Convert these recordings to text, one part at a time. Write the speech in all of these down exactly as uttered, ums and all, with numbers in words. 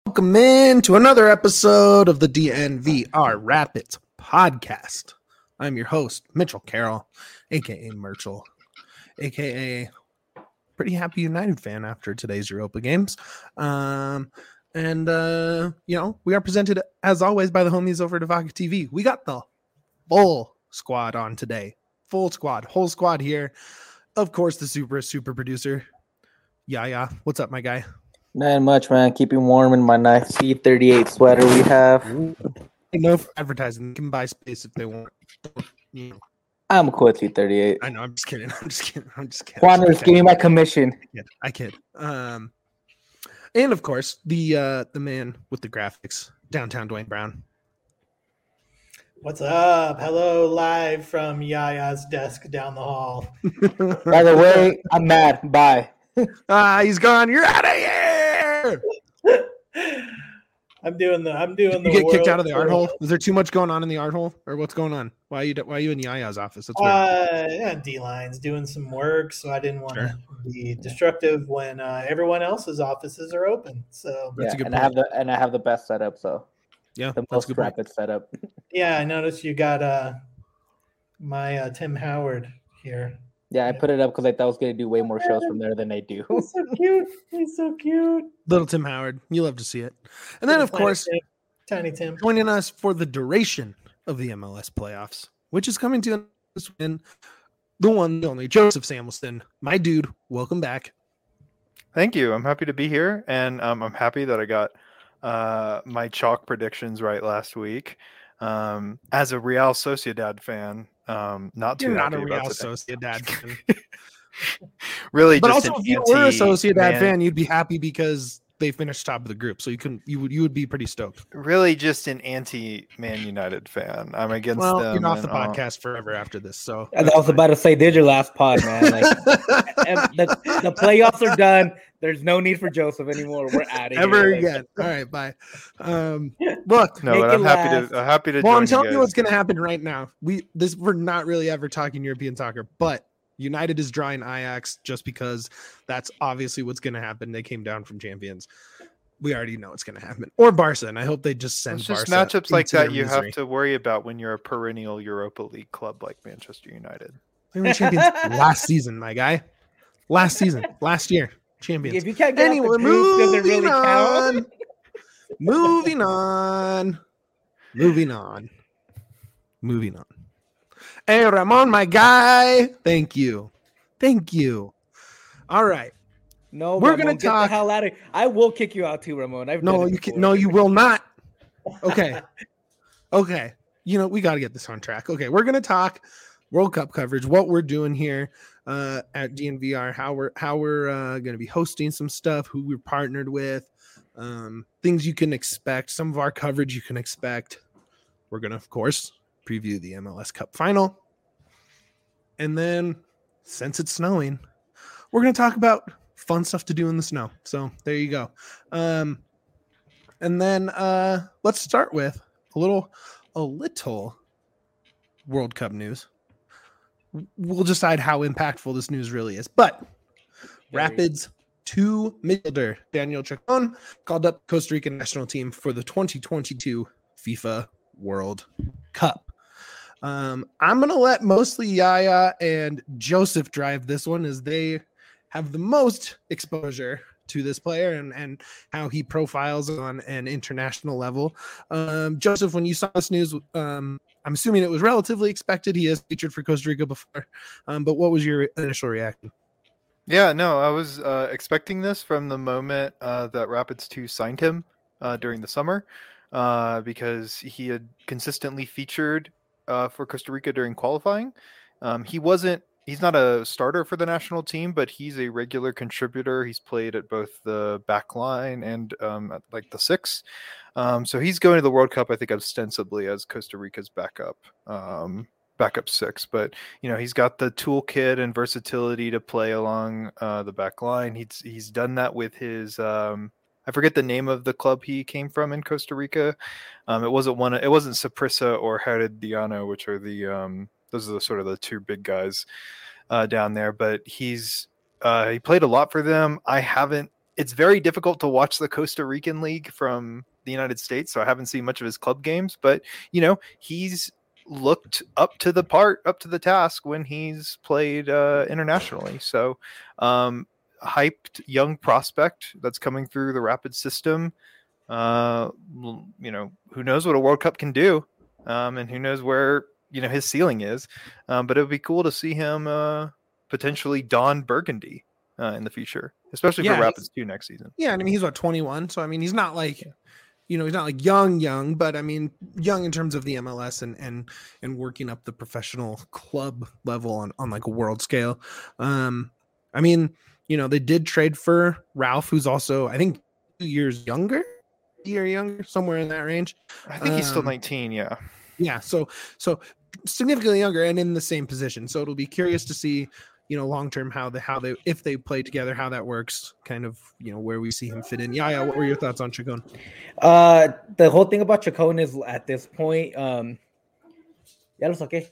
Welcome in to another episode of the D N V R Rapids podcast. I'm your host, Mitchell Carroll, aka Merchel, aka pretty happy United fan after today's Europa games. Um, and, uh, you know, we are presented, as always, by the homies over at Evoca T V. We got the full squad on today. Full squad, whole squad here. Of course, the super, super producer. Yeah, yeah. What's up, my guy? Not much, man. Keeping warm in my nice C thirty-eight sweater we have. No advertising. They can buy space if they want. You know. I'm cool at C thirty-eight. I know. I'm just kidding. I'm just kidding. I'm just kidding. Juaner's give me my commission. Yeah, I kid. Um, and of course, the uh, the man with the graphics, downtown Dwayne Brown. What's up? Hello, live from Yaya's desk down the hall. By the way, I'm mad. Bye. Ah, he's gone. You're out of here. I'm doing the. I'm doing Did the. you get world kicked out of the art tour. hole? Is there too much going on in the art hole, or what's going on? Why are you Why are you in Yaya's office? That's weird. Uh, yeah, D lines doing some work, so I didn't want Sure. to be destructive when uh, everyone else's offices are open. So That's yeah, a good and I point. have the and I have the best setup, so Yeah, the that's a most good point. rapid setup. yeah, I noticed you got uh my uh, Tim Howard here. Yeah, I put it up because I thought I was gonna do way more shows from there than they do. He's so cute. He's so cute. Little Tim Howard. You love to see it. And then, of Tiny course, Tim. Tiny Tim. joining us for the duration of the M L S playoffs, which is coming to this win, the one, the only Joseph Samuelson. My dude, welcome back. Thank you. I'm happy to be here, and um, I'm happy that I got uh, my chalk predictions right last week. Um, as a Real Sociedad fan, um, not too You're not a happy Real about today. Sociedad fan. Really, But just also, an if you were a anti- Sociedad man- fan, you'd be happy because they finished top of the group. So you couldn't, you would, you would be pretty stoked. really just an anti-Man United fan. I'm against Well, them. you're off the and, uh, podcast forever after this. So And I was about to say, did your last pod, man? Like, and the, the playoffs are done. There's no need for Joseph anymore. We're out of here. ever Like, again. All right, bye. Um, look, No, Make but it I'm happy last. to. I'm happy to. well, join I'm telling you you guys. what's going to happen right now. We this we're not really ever talking European soccer, but United is drawing Ajax just because that's obviously what's going to happen. They came down from champions. We already know it's going to happen. Or Barca, and I hope they just send It's just Barca matchups like into their that you misery. have to worry about when you're a perennial Europa League club like Manchester United. They were champions last season, my guy. Last season, last year, champions. If you can't get Anyway, off the group, does it moving really count? on. moving on. Moving on. Moving on. Hey, Ramon, my guy. Thank you. Thank you. All right. No, We're Ramon, gonna get talk- the hell out of. I will kick you out too, Ramon. I've No, done it you can. before. No, you will not. Okay. Okay. You know, we got to get this on track. Okay. We're going to talk World Cup coverage, what we're doing here uh, at D N V R, how we're, how we're uh, going to be hosting some stuff, who we're partnered with, um, things you can expect, some of our coverage you can expect. We're going to, of course, preview the M L S Cup final. And then, since it's snowing, we're going to talk about fun stuff to do in the snow. So there you go. Um, and then uh, let's start with a little, a little World Cup news. We'll decide how impactful this news really is. But Very. Rapids two midfielder Daniel Chacon called up Costa Rica national team for the twenty twenty-two FIFA World Cup. Um, I'm going to let mostly Yaya and Joseph drive this one as they have the most exposure to this player and, and how he profiles on an international level. Um, Joseph, when you saw this news, um, I'm assuming it was relatively expected. He has featured for Costa Rica before, um, but what was your initial reaction? Yeah, no, I was uh, expecting this from the moment uh, that Rapids two signed him uh, during the summer uh, because he had consistently featured uh, for Costa Rica during qualifying. Um, he wasn't, he's not a starter for the national team, but he's a regular contributor. He's played at both the back line and um, at like the six. Um, so he's going to the World Cup, I think, ostensibly as Costa Rica's backup. Um, backup six, but you know he's got the toolkit and versatility to play along uh, the back line. He's he's done that with his um, I forget the name of the club he came from in Costa Rica. Um, it wasn't one. It wasn't Saprissa or Herediano, which are the um, those are the sort of the two big guys uh, down there. But he's uh, he played a lot for them. I haven't it's very difficult to watch the Costa Rican League from the United States, so I haven't seen much of his club games. But you know, he's looked up to the part, up to the task when he's played uh, internationally. So, um, hyped young prospect that's coming through the Rapid system. Uh, you know, who knows what a World Cup can do, um, and who knows where you know his ceiling is. Um, but it would be cool to see him uh, potentially don burgundy uh, in the future, especially Yeah, for Rapids two next season. Yeah, and I mean he's what twenty-one, so I mean he's not like, you know, he's not like young, young, but I mean young in terms of the M L S and and and working up the professional club level on on like a world scale. Um, I mean, you know, they did trade for Ralph, who's also I think two years younger, a year younger, somewhere in that range. I think he's still Um, nineteen. Yeah. Yeah, so so significantly younger and in the same position. So it'll be curious to see, you know, long term how the how they if they play together, how that works, kind of, you know, where we see him fit in. Yeah, yeah. What were your thoughts on Chacon? Uh, the whole thing about Chacon is at this point, um, yeah, it's okay.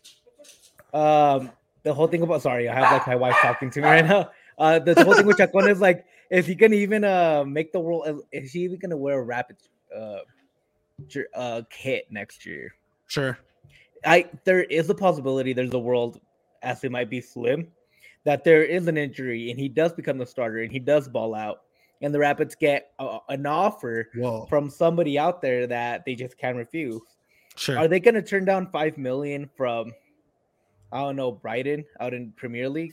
Um, the whole thing about sorry, I have like my wife talking to me right now. Uh, the, the whole thing with Chacon is like, is he gonna even uh make the world? Is he even gonna wear a Rapid uh, jer- uh kit next year? Sure. I there is a possibility. There's a world, as it might be slim, that there is an injury and he does become the starter and he does ball out, and the Rapids get a, an offer Whoa. from somebody out there that they just can't refuse. Sure. Are they going to turn down five million from, I don't know, Brighton out in Premier League?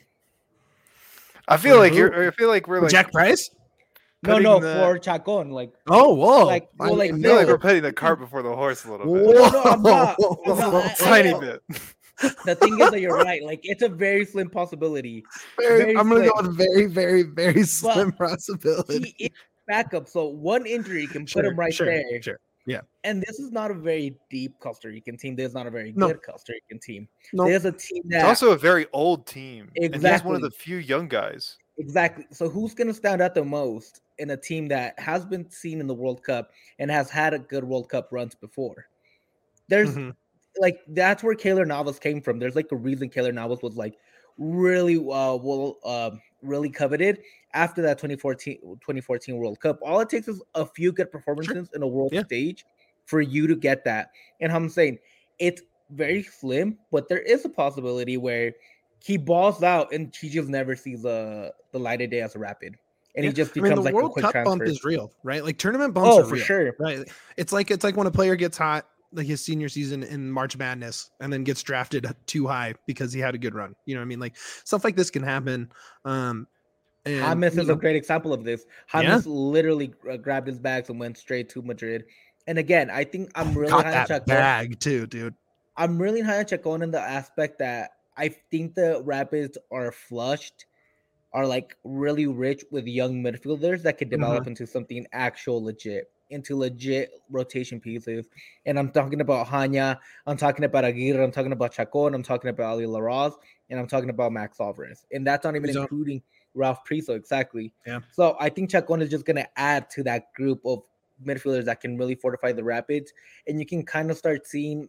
I feel For like who? you're. I feel like we're For like Jack Price? No, putting no, the- for Chacon. Like, Oh, whoa. Like, I well, like, didn't I feel know. like we're putting the cart before the horse a little bit. Whoa. No, I'm not. I'm not. I- I Tiny know. bit. The thing is that you're right. Like, it's a very slim possibility. Very- very I'm going to go slim. with very, very, very slim possibility. He is backup, so one injury can Sure, put him right sure, there. Sure. And this is not a very deep Costa Rican team. This is not a very No. good Costa Rican team. No. There's a team that It's also a very old team. And he's one Exactly. of the few young guys. exactly. So who's going to stand out the most in a team that has been seen in the World Cup and has had a good World Cup runs before? There's Mhm. like that's where Keylor Navas came from. There's like a reason Keylor Navas was like really uh well um really coveted after that twenty fourteen twenty fourteen World Cup. All it takes is a few good performances in a world Yeah. stage for you to get that. And I'm saying it's very slim, but there is a possibility where he balls out and he just never sees uh, the light of day as a Rapid. And he Yeah. just I becomes mean, the like World a quick Cup transfer. bump is real, right? Like tournament bumps Oh, are for real, sure. right? It's like it's like when a player gets hot, like his senior season in March Madness, and then gets drafted too high because he had a good run. You know what I mean? Like stuff like this can happen. Um, and James you is know, a great example of this. Yeah. James literally uh, grabbed his bags and went straight to Madrid. And again, I think I'm really caught high on that Chacon. bag too, dude. I'm really high on Chacon in the aspect that I think the Rapids are flushed, are like really rich with young midfielders that could develop Mm-hmm. into something actual legit, into legit rotation pieces. And I'm talking about Hanya, I'm talking about Aguirre, I'm talking about Chacon, I'm talking about Ali Laraz, and I'm talking about Max Alvarez. And that's not even He's on- including Ralph Priso, exactly. Yeah. So I think Chacon is just going to add to that group of midfielders that can really fortify the Rapids. And you can kind of start seeing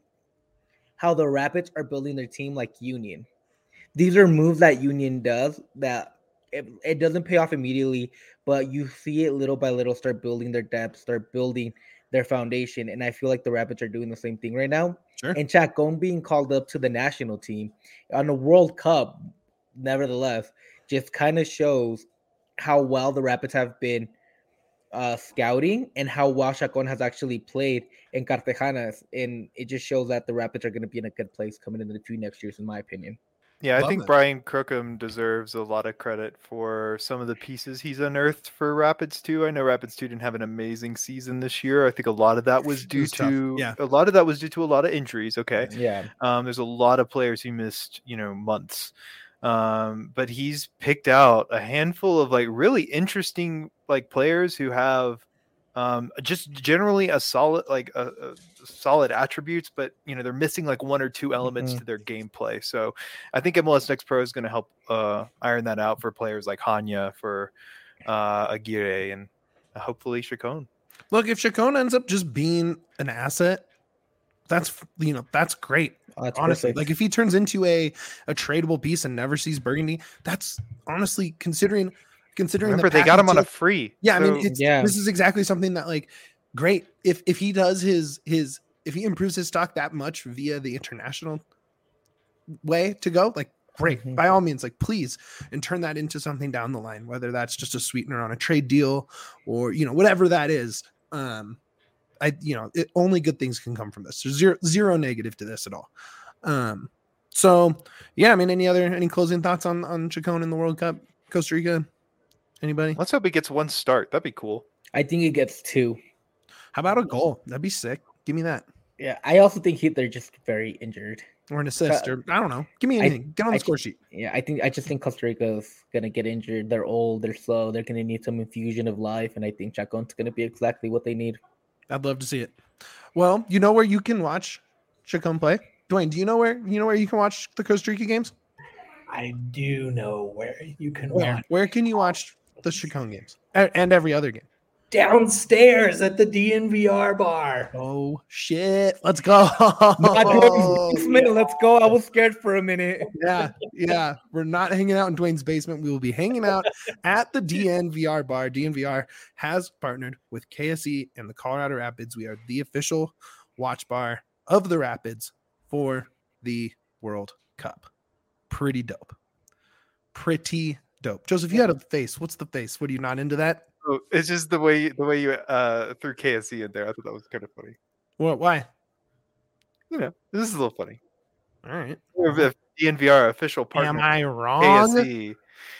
how the Rapids are building their team like Union. These are moves that Union does that it, it doesn't pay off immediately, but you see it little by little start building their depth, start building their foundation. And I feel like the Rapids are doing the same thing right now. Sure. And Chacon being called up to the national team on the World Cup, nevertheless, just kind of shows how well the Rapids have been uh, scouting and how well Chacon has actually played in Cartagenas. And it just shows that the Rapids are going to be in a good place coming into the few next years, in my opinion. Yeah, I Love think that. Brian Crookham deserves a lot of credit for some of the pieces he's unearthed for Rapids two. I know Rapids two didn't have an amazing season this year. I think a lot of that was due was tough, to yeah. a lot of that was due to a lot of injuries. Okay, Yeah. um, there's a lot of players who missed, you know, months. Um, but he's picked out a handful of like really interesting like players who have um, just generally a solid like a, a solid attributes, but you know they're missing like one or two elements Mhm. to their gameplay. So I think M L S Next Pro is going to help uh, iron that out for players like Hanya, for uh, Aguirre, and hopefully Chacon. Look, if Chacon ends up just being an asset, that's you know that's great. Oh, that's Honestly, perfect. like if he turns into a a tradable piece and never sees Burgundy, that's honestly considering considering Remember, the they got him on a package- free. Yeah, I so- mean, it's, Yeah. this is exactly something that like great if if he does his his if he improves his stock that much via the international way to go, like great, Mhm. by all means, like please, and turn that into something down the line, whether that's just a sweetener on a trade deal or you know whatever that is. Um, I you know it, only good things can come from this. There's zero zero negative to this at all. Um, so yeah, I mean, any other any closing thoughts on on Chacon in the World Cup, Costa Rica? Anybody? Let's hope he gets one start. That'd be cool. I think he gets two. How about a goal? That'd be sick. Give me that. Yeah, I also think he, they're just very injured. Or an assist, Uh, or I don't know. Give me I- anything. Get on the I- score sheet. Yeah, I think I just think Costa Rica's gonna get injured. They're old, they're slow, they're gonna need some infusion of life, and I think Chacon's gonna be exactly what they need. I'd love to see it. Well, you know where you can watch Chacon play? Dwayne, do you know where you know where you can watch the Costa Rica games? I do know where you can Where? watch. Where can you watch the Chacon games? A- And every other game. Downstairs at the D N V R bar. Oh shit. Let's go. Basement, let's go. I was scared for a minute. yeah, yeah. We're not hanging out in Dwayne's basement. We will be hanging out at the D N V R bar. D N V R has partnered with K S E and the Colorado Rapids. We are the official watch bar of the Rapids for the World Cup. Pretty dope. Pretty dope. Joseph, you had a face. What's the face? What are you not into that? Oh, it's just the way the way you uh threw K S E in there. I thought that was kind of funny. What? Why? You know, this is a little funny. All right. If D N V R official partner, Am I wrong? K S E.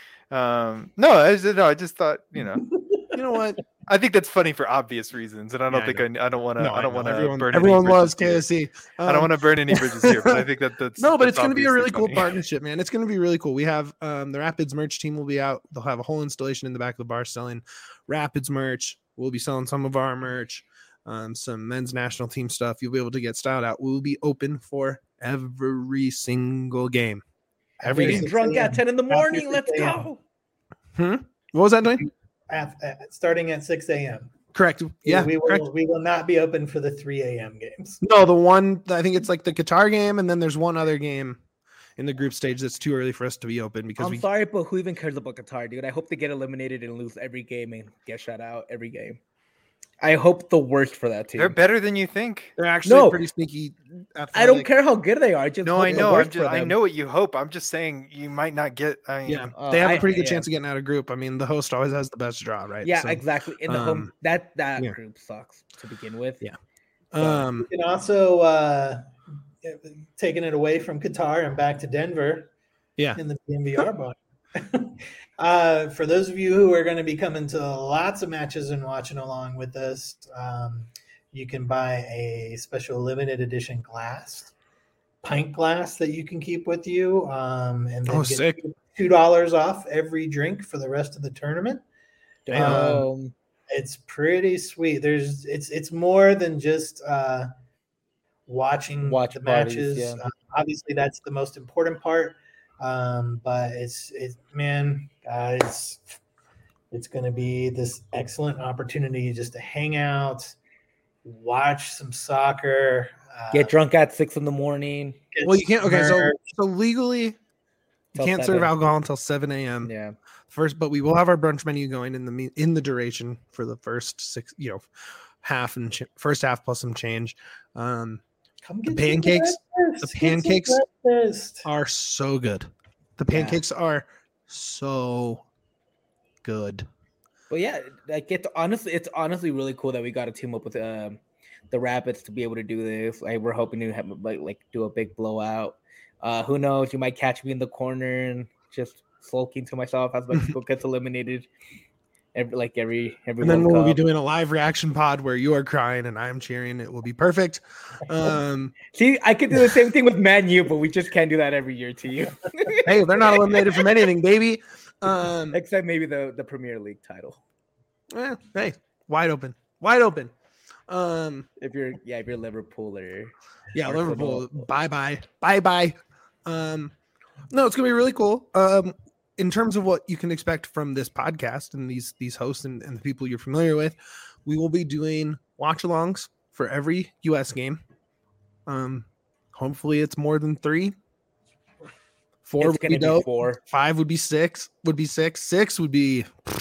Um, no, I just, no, I just thought you know. You know what? I think that's funny for obvious reasons, and I don't Yeah, I think I, I don't want to. No, I don't know. want to Everyone, burn. everyone any loves bridges here. K S E. I don't want to burn any bridges here, but I think that that's no, but that's it's going to be a obviously really cool funny. partnership, man. It's going to be really cool. We have um, the Rapids merch team will be out. They'll have a whole installation in the back of the bar selling Rapids merch. We'll be selling some of our merch, um, some men's national team stuff. You'll be able to get styled out. We'll be open for every single game. Every After game. Getting drunk at ten in the After morning. Let's six a.m. go. What was that doing? Af- uh, starting at six a.m. Correct. Yeah. we correct. will we will not be open for the three a.m. games. No, the one I think it's like the Qatar game, and then there's one other game in the group stage that's too early for us to be open because I'm we sorry, but who even cares about Qatar, dude? I hope they get eliminated and lose every game and get shut out every game. I hope the worst for that team. They're better than you think. they're actually No. pretty sneaky. I don't athletic. care how good they are. Just No, hope I the know. I'm worst just, for I them. know what you hope. I'm just saying you might not get. I mean, Yeah, Uh, they have a I- pretty good yeah. chance of getting out of group. I mean, the host always has the best draw, right? Yeah, So, exactly. In the um, home, that that yeah. group sucks to begin with. Yeah. You Um, can also uh, taking it away from Qatar and back to Denver. Yeah. In the D N V R bar. uh, for those of you who are going to be coming to lots of matches and watching along with us, um, you can buy a special limited edition glass, pint glass that you can keep with you, um, and then Oh, get sick. two dollars off every drink for the rest of the tournament. Damn. Um, It's pretty sweet. There's it's it's more than just uh, watching Watch the parties, matches. yeah. Uh, obviously, that's the most important part. Um, but it's it's man, guys, it's going to be this excellent opportunity just to hang out, watch some soccer, uh, get drunk at six in the morning. get well, you can't. Okay, so merch. so legally, you Till can't serve seven. alcohol until seven a.m. Yeah. First, but we will have our brunch menu going in the me- in the duration for the first six, you know, half and ch- first half plus some change. Um, Come the get some pancakes- breakfast, the get some pancakes breakfast. are so good. The Yeah. pancakes are so good. But yeah, like it's honestly, it's honestly really cool that we got to team up with um, the Rapids to be able to do this. Like we're hoping to have like like do a big blowout. Uh, who knows? You might catch me in the corner and just sulking to myself as Mexico gets eliminated. Every like every every. And then World we'll be Cup. doing a live reaction pod where you are crying and I am cheering. It will be perfect. Um, See, I could do the same thing with Man U, but we just can't do that every year to you. hey, they're not eliminated from anything, baby. Um, Except maybe the the Premier League title. eh, hey, wide open, wide open. Um, If you're yeah, if you're Liverpool or yeah, Arsenal. Liverpool. Bye bye, bye bye. Um, no, it's gonna be really cool. Um, in terms of what you can expect from this podcast and these these hosts and, and the people you're familiar with, we will be doing watch-alongs for every U S game. Um, hopefully it's more than three, Four It's would gonna be be dope. four. Five would be six. Would be six. Six would be,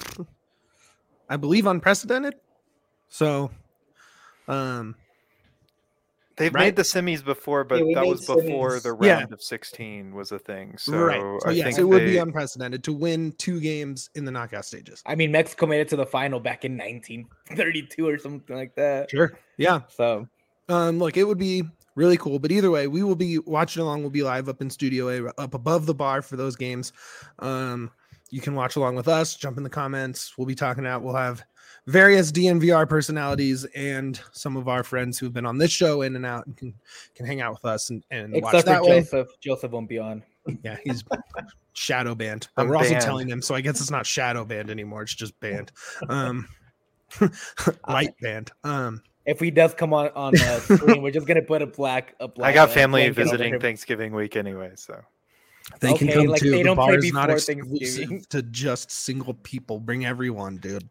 I believe, unprecedented. So, um, They've right? made the semis before, but Yeah, we that made was before the semis. Yeah. round of sixteen was a thing. So right. So I yes, think it would be they- unprecedented to win two games in the knockout stages. I mean, Mexico made it to the final back in nineteen thirty-two or something like that. Sure. Yeah. So Um, look, it would be really cool. But either way, we will be watching along. We'll be live up in Studio A, up above the bar for those games. Um, you can watch along with us. Jump in the comments. We'll be talking out. We'll have various D N V R personalities and some of our friends who've been on this show in and out and can can hang out with us and, and watch except that for way. Joseph, Joseph won't be on. Yeah, he's shadow banned. But I'm we're also banned. telling him, so I guess it's not shadow banned anymore. It's just banned. Um, light banned. Um, If he does come on on uh, screen, we're just gonna put a black. A black I got uh, family blanket over visiting him. Thanksgiving week anyway, so they can Okay, come like, too. they The don't bar play is not before exclusive Thanksgiving. to just single people. Bring everyone, dude.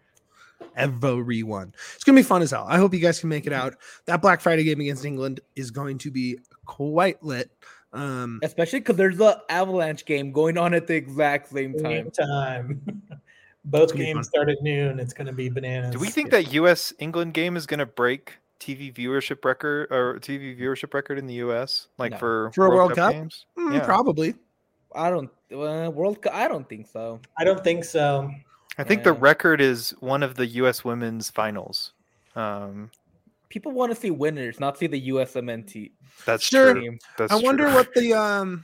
Everyone. It's gonna be fun as hell. I hope you guys can make it out. That Black Friday game against England is going to be quite lit. Um, Especially because there's the Avalanche game going on at the exact same Same time. time. Both gonna be fun. games start at noon. It's going to be bananas. do we think that U S England game is going to break T V viewership record or T V viewership record in the U S like No. for For a World Cup? games? mm, Yeah. Probably. I don't uh, World Cup. I don't think so. I don't think so. I think the Yeah. record is one of the U S women's finals. Um, People want to see winners, not see the U S M N T that's Sure. true. team. That's I wonder true. what the um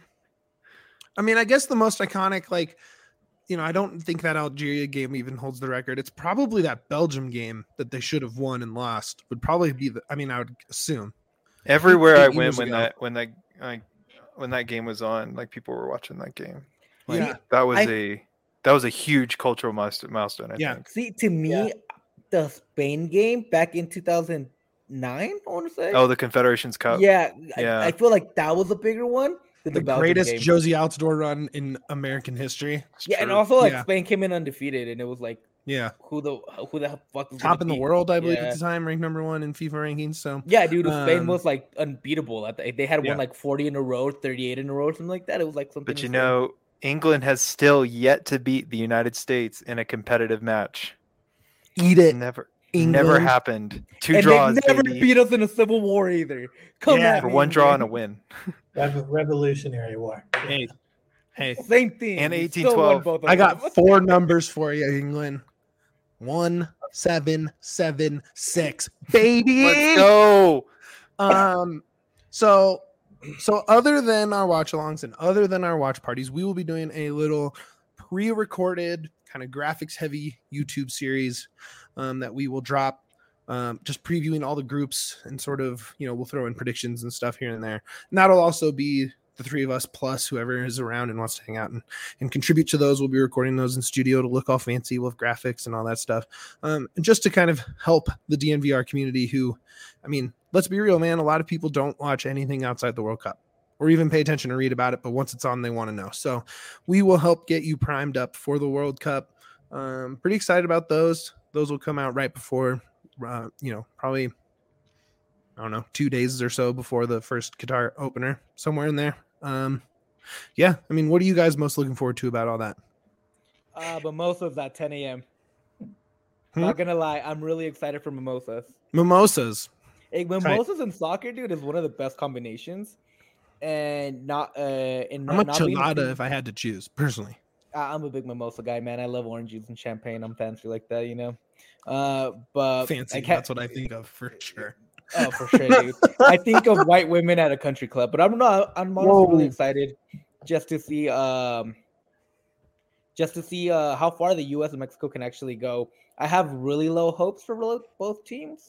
I mean, I guess the most iconic, like, you know, I don't think that Algeria game even holds the record. It's probably that Belgium game that they should have won and lost would probably be the I mean, I would assume. Everywhere I eight went years when ago. that when that like when that game was on, like people were watching that game. Like, Yeah. that was I- a that was a huge cultural milestone. milestone I Yeah. think. See, to me, Yeah. the Spain game back in two thousand nine, I want to say. Oh, the Confederations Cup. yeah, Yeah. I, I feel like that was a bigger one than the, The Belgium greatest game. Josie Altidore run in American history. yeah, and true. also like Yeah. Spain came in undefeated, and it was like, Yeah. who the who the fuck is Top gonna in the beat- world, I believe, Yeah. at the time, ranked number one in FIFA rankings. So Yeah, dude, Spain Um, was like unbeatable. At the, they had yeah. won like forty in a row, thirty-eight in a row, something like that. It was like something. But you insane. know, England has still yet to beat the United States in a competitive match. eat it. Never, England. never happened. Two and draws, they never baby. beat us in a civil war either. Come Yeah, at for me, one draw and a England. win. Rev- Revolutionary War. Hey, hey, Same thing. And We eighteen still won twelve. both of I got them. four numbers for you, England. One, seven, seven, six, baby. Let's go. Um, so, so other than our watch alongs and other than our watch parties, we will be doing a little pre-recorded kind of graphics heavy YouTube series um, that we will drop. Um, just previewing all the groups and sort of, you know, we'll throw in predictions and stuff here and there. And that'll also be the three of us plus whoever is around and wants to hang out and, and contribute to those. We'll be recording those in studio to look all fancy with graphics and all that stuff. Um, and just to kind of help the D N V R community who, I mean, let's be real, man. A lot of people don't watch anything outside the World Cup or even pay attention or read about it. But once it's on, they want to know. So we will help get you primed up for the World Cup. Um, pretty excited about those. Those will come out right before, uh, you know, probably, I don't know, two days or so before the first Qatar opener, somewhere in there. Um, yeah, I mean, what are you guys most looking forward to about all that? Uh, mimosas at ten a.m. Hmm? Not gonna lie, I'm really excited for mimosas. Mimosas. Hey, mimosas and soccer, dude, is one of the best combinations. And not uh, and I'm not, a not being chilada if I had to choose, personally. I- I'm a big mimosa guy, man. I love orange juice and champagne. I'm fancy like that, you know. Uh, but Fancy, I can't- that's what I think of for sure. Oh, for sure, dude. I think of white women at a country club, but I'm not. I'm honestly really Whoa. excited just to see, um, just to see uh, how far the U S and Mexico can actually go. I have really low hopes for ro- both teams.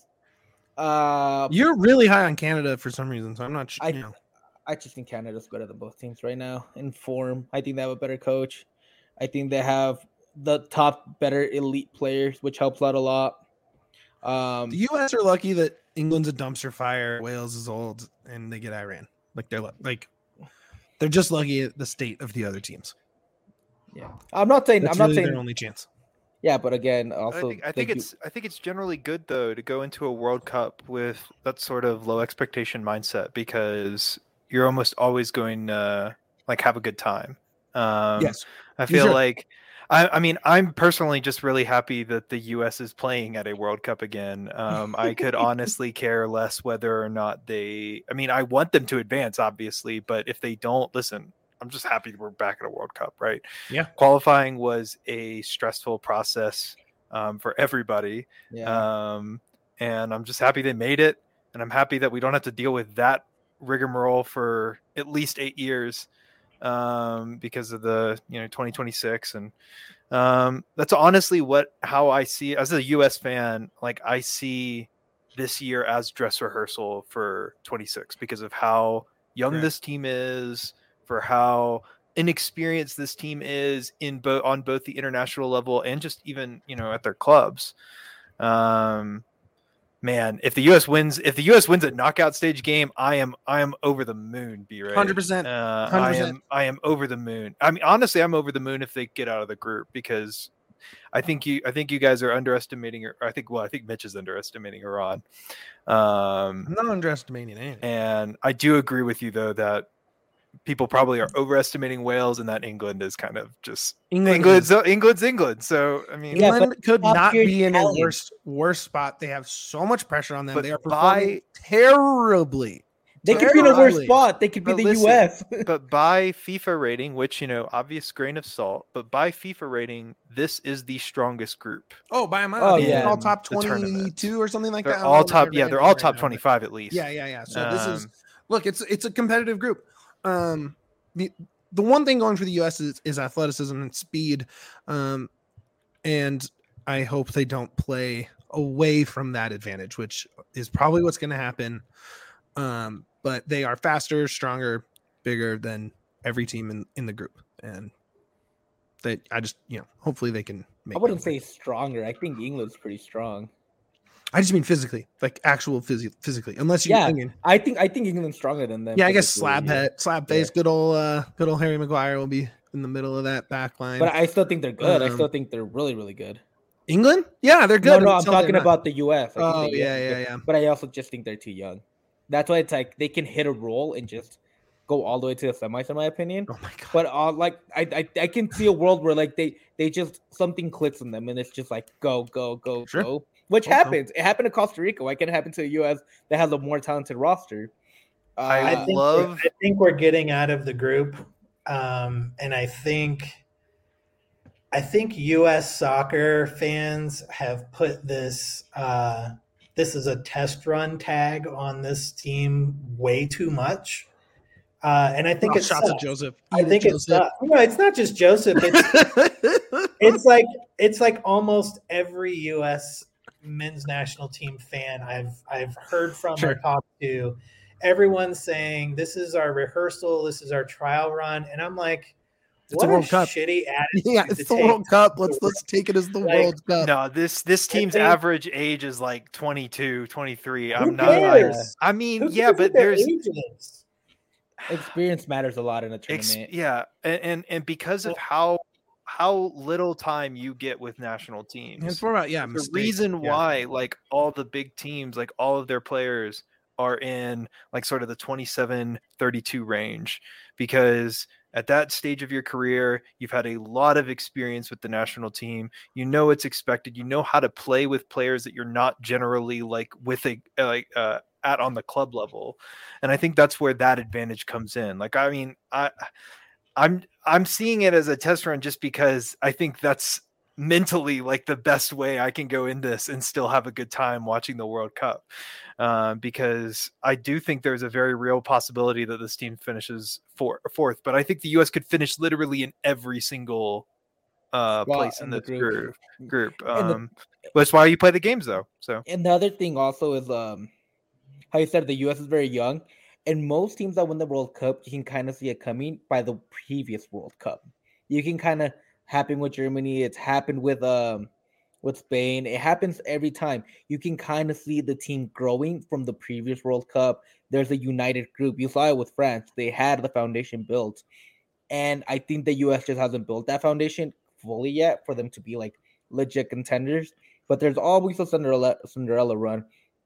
Uh, You're really high on Canada for some reason, so I'm not sure. I- You know. I just think Canada's better than both teams right now in form. I think they have a better coach. I think they have the top, better elite players, which helps out a lot. Um, The U S are lucky that England's a dumpster fire, Wales is old, and they get Iran. Like they're lu- like they're just lucky at the state of the other teams. yeah, I'm not saying. That's I'm not really saying. their only chance. Yeah, but again, I also, think, I the think U- it's I think it's generally good though to go into a World Cup with that sort of low expectation mindset because you're almost always going uh, like have a good time. Um, Yes, I you feel should. like, I, I mean, I'm personally just really happy that the U S is playing at a World Cup again. Um, I could honestly care less whether or not they, I mean, I want them to advance, obviously, but if they don't, listen, I'm just happy we're back at a World Cup, right? Yeah. Qualifying was a stressful process um, for everybody. Yeah. Um, and I'm just happy they made it. And I'm happy that we don't have to deal with that rigmarole for at least eight years um, because of the, you know, twenty twenty-six. And um, that's honestly what, how I see as a U S fan, like I see this year as dress rehearsal for twenty-six because of how young Correct. this team is, for how inexperienced this team is in both on both the international level and just even, you know, at their clubs. Um, man, if the U S wins, if the U S wins a knockout stage game, I am, I am over the moon. B Ray, one hundred percent. uh, one hundred I percent. am, I am over the moon. I mean, honestly, I'm over the moon if they get out of the group because I think you, I think you guys are underestimating, or I think, well, I think Mitch is underestimating Iran. Um, I'm not underestimating anything. and I do agree with you though that people probably are overestimating Wales, and that England is kind of just England England's is- England's England. So I mean, Yeah, England could top not tier be in a talent. worse worse spot. They have so much pressure on them. But They are performing by- terribly. They could be in a worse Terribly. spot. They could be But the listen, U S. but by FIFA rating, which, you know, obvious grain of salt, but by FIFA rating, this is the strongest group. Oh, by a mile. Oh, They're yeah. all top The tournament. twenty-two or something like They're that. I don't all know what top, their yeah, they're rating all is top right now, but- twenty-five at least. Yeah, yeah, yeah. So this is Um, look, it's it's a competitive group. Um, the the one thing going for the U S is, is athleticism and speed, um, and I hope they don't play away from that advantage, which is probably what's going to happen. Um, but they are faster, stronger, bigger than every team in, in the group, and they I just you know hopefully they can. Make I wouldn't it. say stronger. I think England's pretty strong. I just mean physically, like actual phys- physically, unless you. Yeah, I mean, I think I think England's stronger than them. yeah, I guess physically, slab yeah. head, slab face, good old, uh, good old Harry Maguire will be in the middle of that back line. But I still think they're good. I Um, still think they're really, really good. England, yeah, they're No, good. no, I'm until they're talking not. about the U S. I think Oh, the U S yeah, is yeah, good. yeah. But I also just think they're too young. That's why it's like they can hit a roll and just go all the way to the semis, in my opinion. Oh my god. But uh, like I, I, I can see a world where like they, they just something clicks in them and it's just like go, go, go, Sure. go. Which Hope so. happens. It happened to Costa Rica. Why can't it happen to the U S that has a more talented roster? Uh, I I think love- we're, I think we're getting out of the group, um, and I think I think U S soccer fans have put this uh, this is a test run tag on this team way too much, uh, and I think Oh, it's shots at Joseph. I Eat it, think it's Joseph. uh, no, it's not just Joseph. It's it's like it's like almost every U S men's national team fan I've I've heard from Sure. or talked to. Everyone's saying this is our rehearsal, this is our trial run, and I'm like, It's what a a, World Cup. shitty attitude. yeah, to it's the take. World Cup. Let's let's take it as the Like, World Cup. No, this this I team's think- average age is like twenty-two, twenty-three. Who I'm not like, cares? I mean, Who yeah, cares but what their there's age is? experience matters a lot in a ex- tournament. yeah, and, and and because of how how little time you get with national teams, It's more about yeah. the mistakes. reason Yeah. why like all the big teams, like all of their players are in like sort of the twenty-seven thirty-two range, because at that stage of your career you've had a lot of experience with the national team. You know what's expected, you know how to play with players that you're not generally like with a like uh at on the club level, and I think that's where that advantage comes in. Like I mean I I'm I'm seeing it as a test run just because I think that's mentally like the best way I can go in this and still have a good time watching the World Cup, uh, because I do think there's a very real possibility that this team finishes four, fourth. But I think the U S could finish literally in every single uh, Spot place in in the this group. group. Group. And the- Um, that's why you play the games, though. So And the other thing also is um how you said the U S is very young, and most teams that win the World Cup, you can kind of see it coming by the previous World Cup. You can kind of happen with Germany. It's happened with um with Spain. It happens every time. You can kind of see the team growing from the previous World Cup. There's a united group. You saw it with France. They had the foundation built, and I think the U S just hasn't built that foundation fully yet for them to be like legit contenders. But there's always a Cinderella Cinderella run. And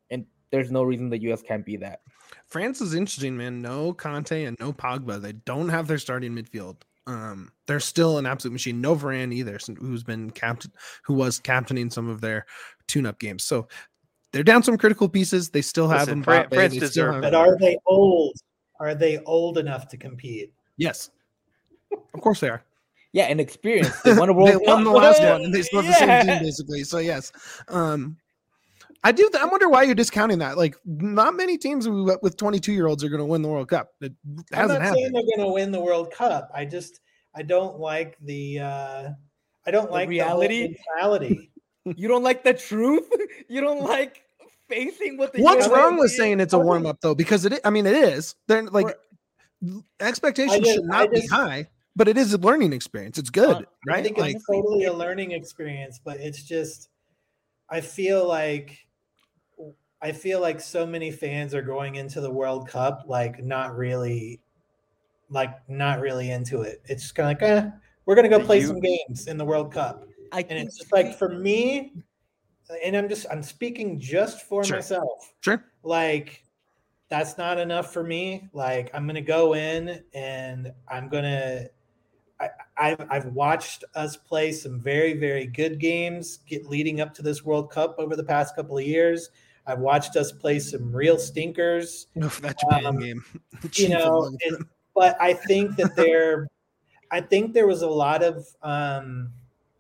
there's no reason the U S can't be that. France is interesting, man. No Conte and no Pogba. They don't have their starting midfield. Um, they're still an absolute machine. No Varane either, who's been captain, who was captaining some of their tune-up games. So they're down some critical pieces. They still have Listen, them. Fran- France deserve But are they old? Are they old enough to compete? Yes, of course they are. Yeah, and experience. They won a World They Cup. won the last one, and they still have the Yeah. same team basically. So yes, um, I do. I wonder why you're discounting that. Like, not many teams with twenty-two year olds are going to win the World Cup. It I'm hasn't not happened. saying they're going to win the World Cup. I just I don't like the uh, I don't The like reality? the whole mentality. You don't like the truth? You don't like facing what the What's U S wrong with is? saying it's a Okay. warm up though? Because it, I mean, it is. They're like We're- expectations I just- should I not be just- high, but it is a learning experience. It's good, Uh, I right? think Like, it's totally a learning experience, but it's just I feel like I feel like so many fans are going into the World Cup like not really like not really into it. It's just kind of like, eh, we're gonna go The play U- some games in the World Cup. I And think it's just like for me, and I'm just I'm speaking just for Sure. myself. sure. Like that's not enough for me. Like I'm gonna go in and I'm gonna I, I've I've watched us play some very, very good games get leading up to this World Cup over the past couple of years. I've watched us play some real stinkers. Oof, that Japan Um, game. You Chief know, among it, them. but I think that there I think there was a lot of um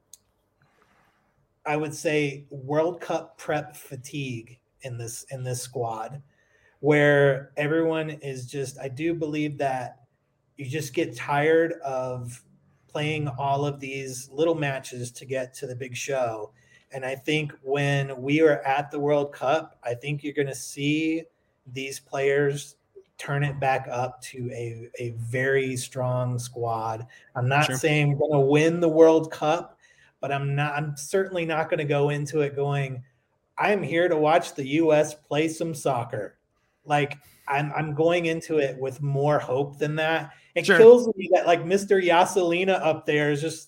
I would say World Cup prep fatigue in this in this squad where everyone is just I do believe that you just get tired of playing all of these little matches to get to the big show. And I think when we are at the World Cup, I think you're going to see these players turn it back up to a, a very strong squad. I'm not Sure. saying we're going to win the World Cup, but I'm not I'm certainly not going to go into it going, I'm here to watch the U S play some soccer. Like I'm I'm going into it with more hope than that. It Sure. kills me that like Mister Yaselina up there is just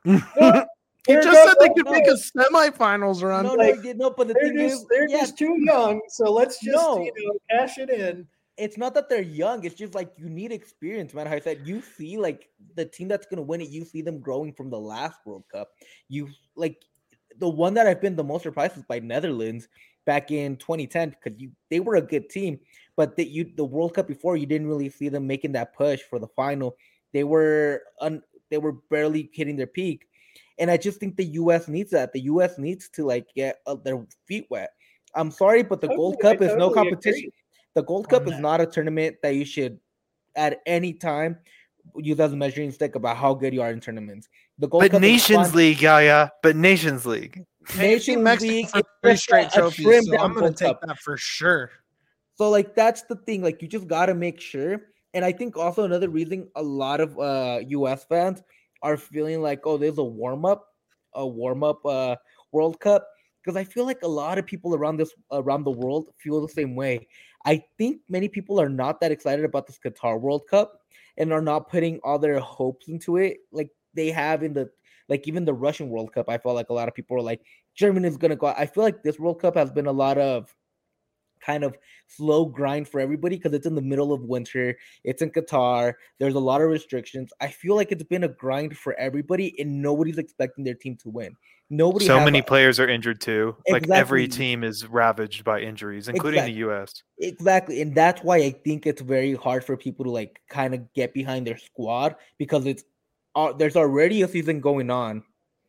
He Here just goes- said they could no. make a semifinals run. no, like, no, you- no. But the they're thing just is, they're yeah, just too young. So let's just No. you know cash it in. it's not that they're young. It's just like you need experience, man. How I said you see like the team that's gonna win it. You see them growing from the last World Cup. You like the one that I've been the most surprised is by Netherlands back in twenty ten because you they were a good team, but that you the World Cup before you didn't really see them making that push for the final. They were un, they were barely hitting their peak, and I just think the U S needs that. The U S needs to like get uh, their feet wet. I'm sorry, but the Gold Totally, I Cup is no totally competition. agree The Gold on Cup is that. not a tournament that you should at any time use as a measuring stick about how good you are in tournaments. The Gold But Cup is Nations fun. League, Yaya. But Nations League. Hey, you've seen Nations Mexico League for is three just straight a- a trophies, trimmed so down I'm going Gold to take Cup. that for sure. So like that's the thing. Like you just gotta make sure. And I think also another reason a lot of uh U S fans are feeling like, oh, there's a warm up, a warm up uh World Cup. Because I feel like a lot of people around this around the world feel the same way. I think many people are not that excited about this Qatar World Cup and are not putting all their hopes into it like they have in the like even the Russian World Cup. I felt like a lot of people are like Germany is gonna go. I feel like this World Cup has been a lot of kind of slow grind for everybody because it's in the middle of winter. It's in Qatar. There's a lot of restrictions. I feel like it's been a grind for everybody, and nobody's expecting their team to win. Nobody. So has many a- players are injured too. Like every Exactly. team is ravaged by injuries, including Exact- the U S. Exactly, and that's why I think it's very hard for people to like kind of get behind their squad because it's uh, there's already a season going on.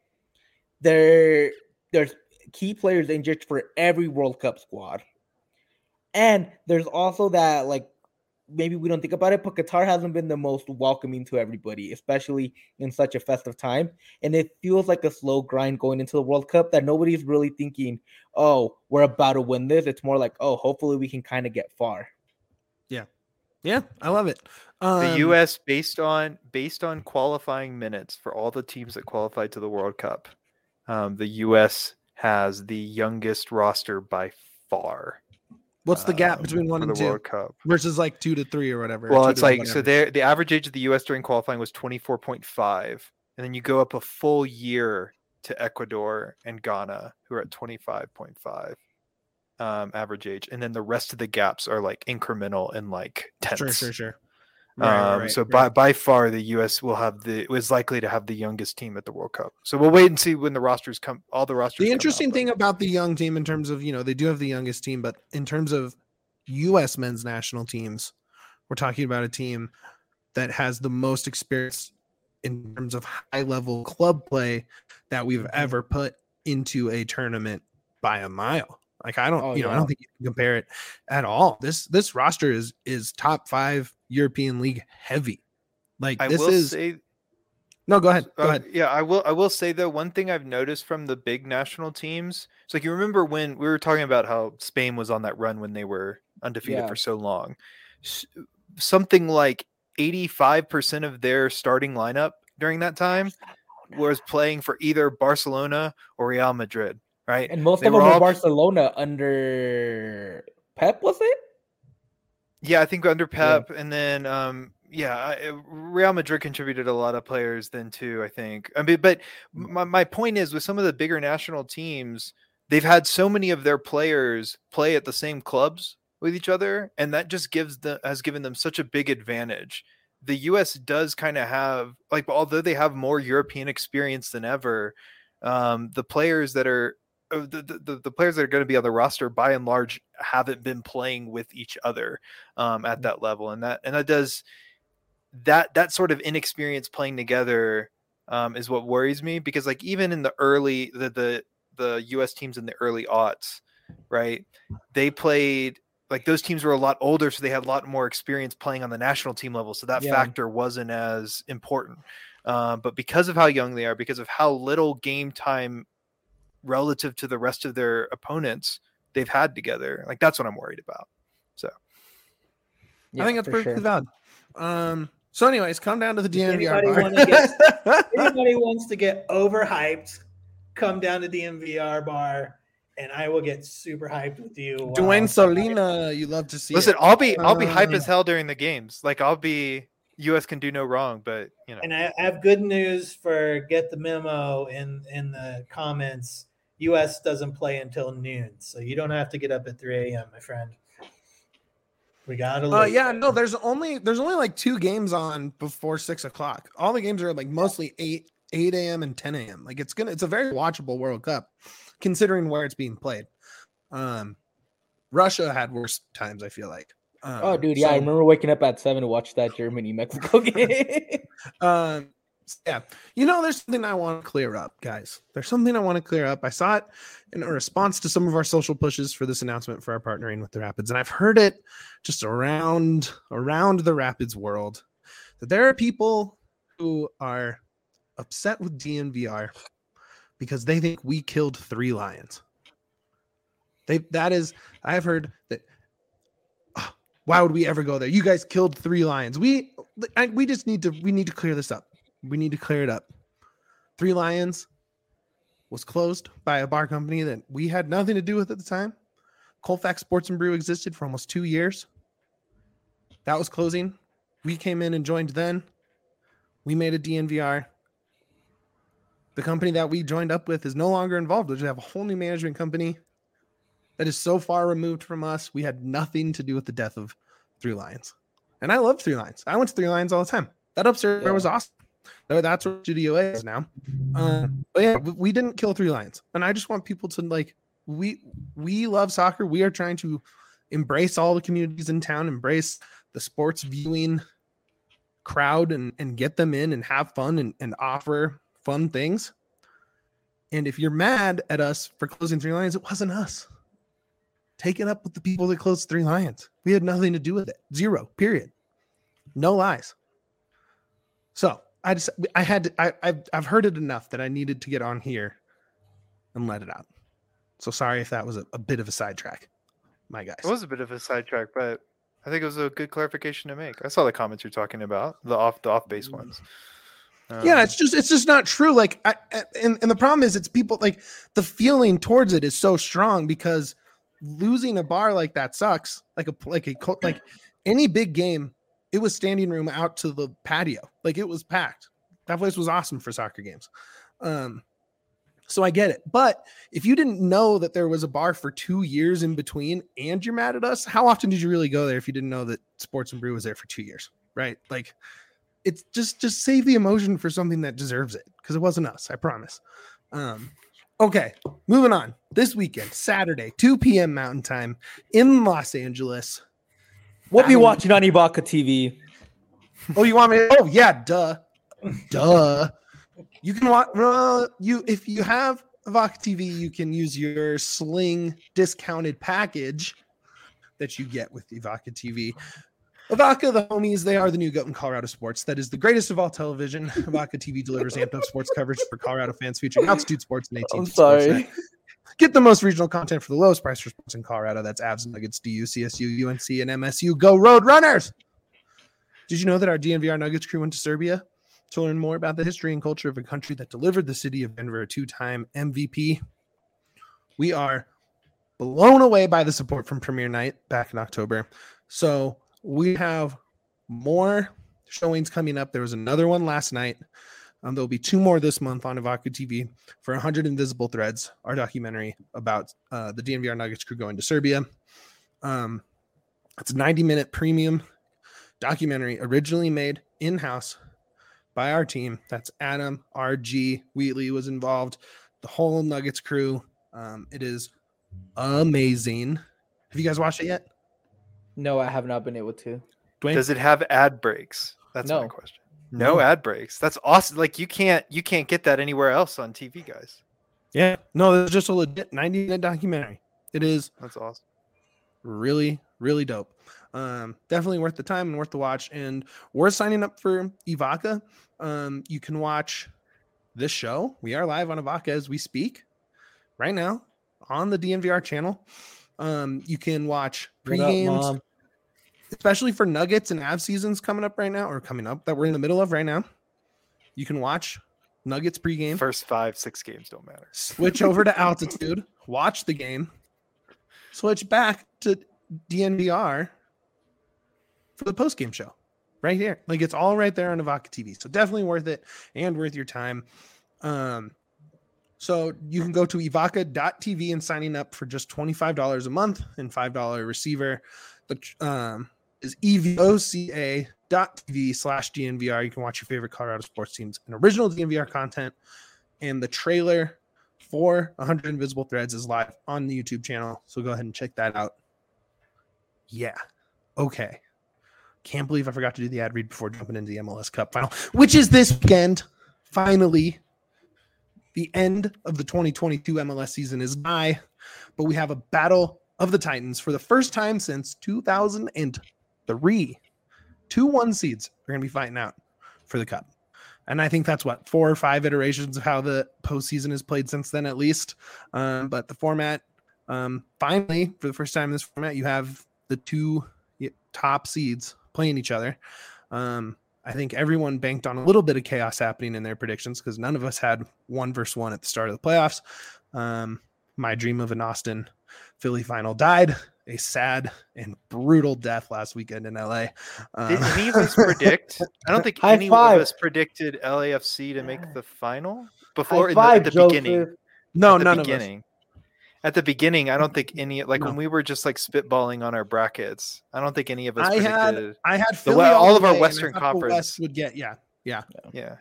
There, there's key players injured for every World Cup squad, and there's also that like maybe we don't think about it, but Qatar hasn't been the most welcoming to everybody, especially in such a festive time, and it feels like a slow grind going into the World Cup that nobody's really thinking, oh, we're about to win this. It's more like, oh, hopefully we can kind of get far. Yeah, I love it. The Um, U S based on based on qualifying minutes for all the teams that qualified to the World Cup, um, the U S has the youngest roster by far. What's the gap um, between one for and the two World Cup? versus like two to three or whatever? or Well, two it's to like so whatever? there the average age of the U S during qualifying was twenty-four point five, and then you go up a full year to Ecuador and Ghana, who are at twenty-five point five. um, average age, and then the rest of the gaps are like incremental and like tenths. Sure, sure, sure. Right, Um, right, so right. by by far the U S will have the is likely to have the youngest team at the World Cup. So we'll wait and see when the rosters come. All the rosters. The come interesting out, thing but- about the young team, in terms of, you know, they do have the youngest team, but in terms of U S men's national teams, we're talking about a team that has the most experience in terms of high level club play that we've ever put into a tournament by a mile. Like I don't, Oh, you know, I yeah. don't think you can compare it at all. This this roster is is top five European League heavy. Like I this will is say, no. Go ahead. Go uh, ahead. yeah, I will. I will say though, one thing I've noticed from the big national teams, it's like you remember when we were talking about how Spain was on that run when they were undefeated Yeah. for so long. S- Something like eighty-five percent of their starting lineup during that time was playing for either Barcelona or Real Madrid, right? And most They of were them were all- Barcelona under Pep, was it? Yeah, I think under Pep, and then um, yeah, I- Real Madrid contributed a lot of players then too. I think. I mean, but my my point is with some of the bigger national teams, they've had so many of their players play at the same clubs with each other, and that just gives the has given them such a big advantage. The U S does kind of have like, although they have more European experience than ever, um, the players that are uh, the, the the players that are going to be on the roster by and large haven't been playing with each other um, at that level, and that and that does that that sort of inexperience playing together um, is what worries me, because like even in the early the the the U S teams in the early aughts, right? They played like those teams were a lot older, so they had a lot more experience playing on the national team level, so that Yeah. factor wasn't as important. Um, but because of how young they are, because of how little game time relative to the rest of their opponents they've had together, like that's what I'm worried about. So Yeah, I think that's for perfectly sure. valid. Um. So, anyways, come down to the D N V R anybody bar. wanna get- Anybody wants to get overhyped, come down to D M V R bar, and I will get super hyped with you. while- Dwayne Solina, you love to see. listen, it. I'll be I'll be hype Um, as hell during the games. Like I'll be U S can do no wrong, but you know. And I I have good news for get the memo in in the comments. U S doesn't play until noon, so you don't have to get up at three a.m., my friend. We got to. Uh, yeah, no, there's only there's only like two games on before six o'clock. All the games are like mostly eight eight a.m. and ten a.m. Like it's gonna it's a very watchable World Cup, considering where it's being played. Um, Russia had worse times, I feel like. Um, Oh, dude, yeah, I so, remember waking up at seven to watch that Germany Mexico game. Um, yeah, you know, there's something I want to clear up, guys. There's something I want to clear up. I saw it in a response to some of our social pushes for this announcement for our partnering with the Rapids, and I've heard it just around around the Rapids world that there are people who are upset with D N V R because they think we killed three lions. They that is, I've heard that. "Oh, why would we ever go there? You guys killed three lions. We I, we just need to we need to clear this up. We need to clear it up. Three Lions was closed by a bar company that we had nothing to do with at the time. Colfax Sports and Brew existed for almost two years. That was closing. We came in and joined then. We made a D N V R. The company that we joined up with is no longer involved. We have a whole new management company that is so far removed from us. We had nothing to do with the death of Three Lions. And I love Three Lions. I went to Three Lions all the time. That upstairs Yeah. was awesome. No, that's what Studio A is now. Um, but yeah, we, we didn't kill Three Lions, and I just want people to like we we love soccer. We are trying to embrace all the communities in town, embrace the sports viewing crowd, and and get them in and have fun and, and offer fun things. And if you're mad at us for closing Three Lions, it wasn't us. Take it up with the people that closed Three Lions. We had nothing to do with it. Zero. Period. No lies. So I just I had to, I I've, I've heard it enough that I needed to get on here and let it out. So sorry if that was a, a bit of a sidetrack, my guys. It was a bit of a sidetrack, but I think it was a good clarification to make. I saw the comments you're talking about, the off the off base ones. Um, Yeah, it's just it's just not true. Like, I, I- and and the problem is, it's people like the feeling towards it is so strong because losing a bar like that sucks. Like a like a co- like any big game, it was standing room out to the patio. Like it was packed. That place was awesome for soccer games. Um, So I get it. But if you didn't know that there was a bar for two years in between and you're mad at us, how often did you really go there if you didn't know that Sports and Brew was there for two years? Right? Like, it's just just save the emotion for something that deserves it, because it wasn't us, I promise. Um, okay, moving on. This weekend, Saturday, two p.m. Mountain Time in Los Angeles. We'll be watching on Ibaka T V. Oh, you want me? To, oh, yeah, duh, duh. You can watch. Uh, you if you have Avoca T V, you can use your Sling discounted package that you get with Avoca T V. Avoca, the homies, they are the new goat in Colorado sports. That is the greatest of all television. Avoca T V delivers amped up sports coverage for Colorado fans featuring Altitude Sports and eighteenth. I'm sorry. Get the most regional content for the lowest price for sports in Colorado. That's Avs, Nuggets, D U, C S U, U N C, and M S U. Go Road Runners! Did you know that our D N V R Nuggets crew went to Serbia to learn more about the history and culture of a country that delivered the city of Denver a two-time M V P? We are blown away by the support from Premiere Night back in October. So we have more showings coming up. There was another one last night. Um, there'll be two more this month on Avoca T V for one hundred Invisible Threads, our documentary about uh, the D N V R Nuggets crew going to Serbia. Um, it's a ninety-minute premium documentary originally made in-house by our team. That's Adam, R G, Wheatley was involved, the whole Nuggets crew. Um, it is amazing. Have you guys watched it yet? No, I have not been able to. Dwayne? Does it have ad breaks? That's No. my question. No, No. ad breaks. That's awesome. Like you can't you can't get that anywhere else on T V, guys. Yeah. No, it's just a legit ninety-minute documentary. It is That's awesome. really, really dope. Um, definitely worth the time and worth the watch. And we're signing up for Avoca. Um, you can watch this show. We are live on Avoca as we speak right now on the D N V R channel. Um, you can watch What up, pre-games, Mom? especially for Nuggets and Avs seasons coming up right now, or coming up that we're in the middle of right now. You can watch Nuggets pregame. First five, six games don't matter. Switch over to Altitude, watch the game, switch back to D N V R for the post-game show right here. Like, it's all right there on Avoca T V. So definitely worth it and worth your time. Um, so you can go to evoca dot t v and signing up for just twenty-five dollars a month and five dollars receiver. The um, is evoca dot t v slash D N V R. You can watch your favorite Colorado sports teams and original D N V R content. And the trailer for one hundred Invisible Threads is live on the YouTube channel. So go ahead and check that out. Yeah. Okay. Can't believe I forgot to do the ad read before jumping into the M L S Cup final, which is this weekend. Finally, the end of the twenty twenty-two M L S season is nigh, but we have a battle of the Titans for the first time since two thousand three. Two one seeds are going to be fighting out for the Cup. And I think that's what, four or five iterations of how the postseason is played since then, at least. Um, but the format, um, finally, for the first time in this format, you have the two top seeds playing each other. Um, I think everyone banked on a little bit of chaos happening in their predictions because none of us had one versus one at the start of the playoffs. Um, my dream of an Austin Philly final died a sad and brutal death last weekend in L A. Um, Did any of us predict? I don't think High any five. of us predicted L A F C to make the final before High in five, the, at the Joseph. beginning. no, At the none of us. beginning. At the beginning, I don't think any like No. when we were just like spitballing on our brackets. I don't think any of us I had predicted. I had The Philly we- all all the of our way, and I Western thought the Conference. West would get yeah yeah. Yeah.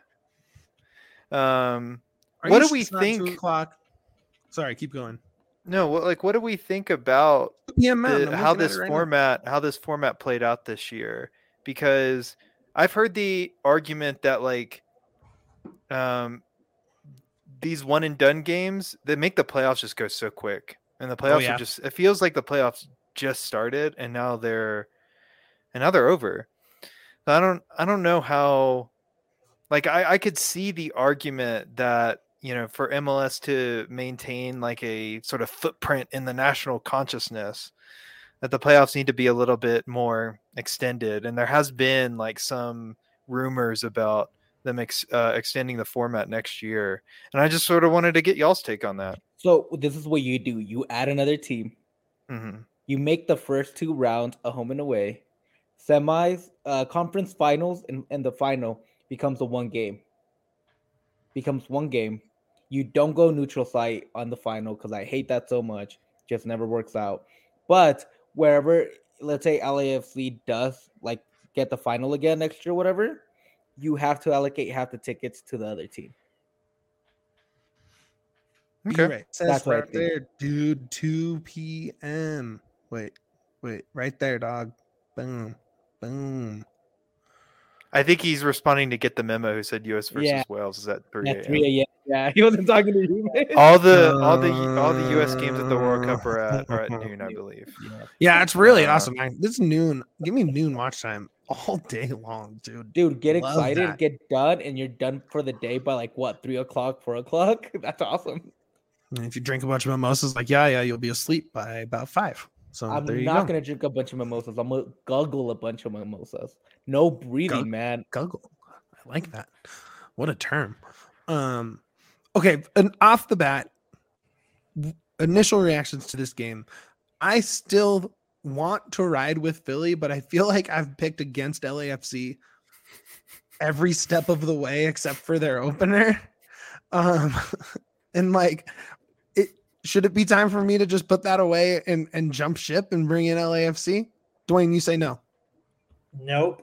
Um. Are What you do sure we it's not think- Two o'clock. Sorry, keep going. No. What like what do we think about two p.m. Mountain, the, I'm how looking at this it right now. format how this format played out this year? Because I've heard the argument that like um these one and done games that make the playoffs just go so quick, and the playoffs yeah. are just it feels like the playoffs just started and now they're and now they're over. So I don't I don't know how like I, I could see the argument that you know for M L S to maintain like a sort of footprint in the national consciousness that the playoffs need to be a little bit more extended, and there has been like some rumors about them ex, uh, extending the format next year, and I just sort of wanted to get y'all's take on that. So this is what you do. You add another team. Mm-hmm. You make the first two rounds a home and away. Semis, uh, conference finals, and, and the final becomes a one game. Becomes one game. You don't go neutral site on the final because I hate that so much. Just never works out. But wherever, let's say L A F C does like get the final again next year, whatever, you have to allocate half the tickets to the other team. Okay. Right. Says That's right there, dude. two p.m. Wait, wait, right there, dog. Boom, boom. I think he's responding to Get the Memo, who said U S versus Yeah. Wales is at three a.m. Yeah, yeah, he wasn't talking to you. Man. All the all the all the U S games at the World Cup are at, are at noon, I believe. Yeah, yeah it's really uh, awesome, man. This noon, give me noon watch time all day long, dude. Dude, get Love excited, that. get done, and you're done for the day by like what, three o'clock, four o'clock? That's awesome. And if you drink a bunch of mimosas, like yeah, yeah, you'll be asleep by about five. So I'm there you not go. gonna drink a bunch of mimosas. I'm gonna guggle a bunch of mimosas. No breathing, Gug- man. Guggle. I like that. What a term. Um, okay, and off the bat, initial reactions to this game. I still want to ride with Philly, but I feel like I've picked against L A F C every step of the way except for their opener. Um, and like, it should it be time for me to just put that away and, and jump ship and bring in L A F C? Dwayne, you say no. Nope.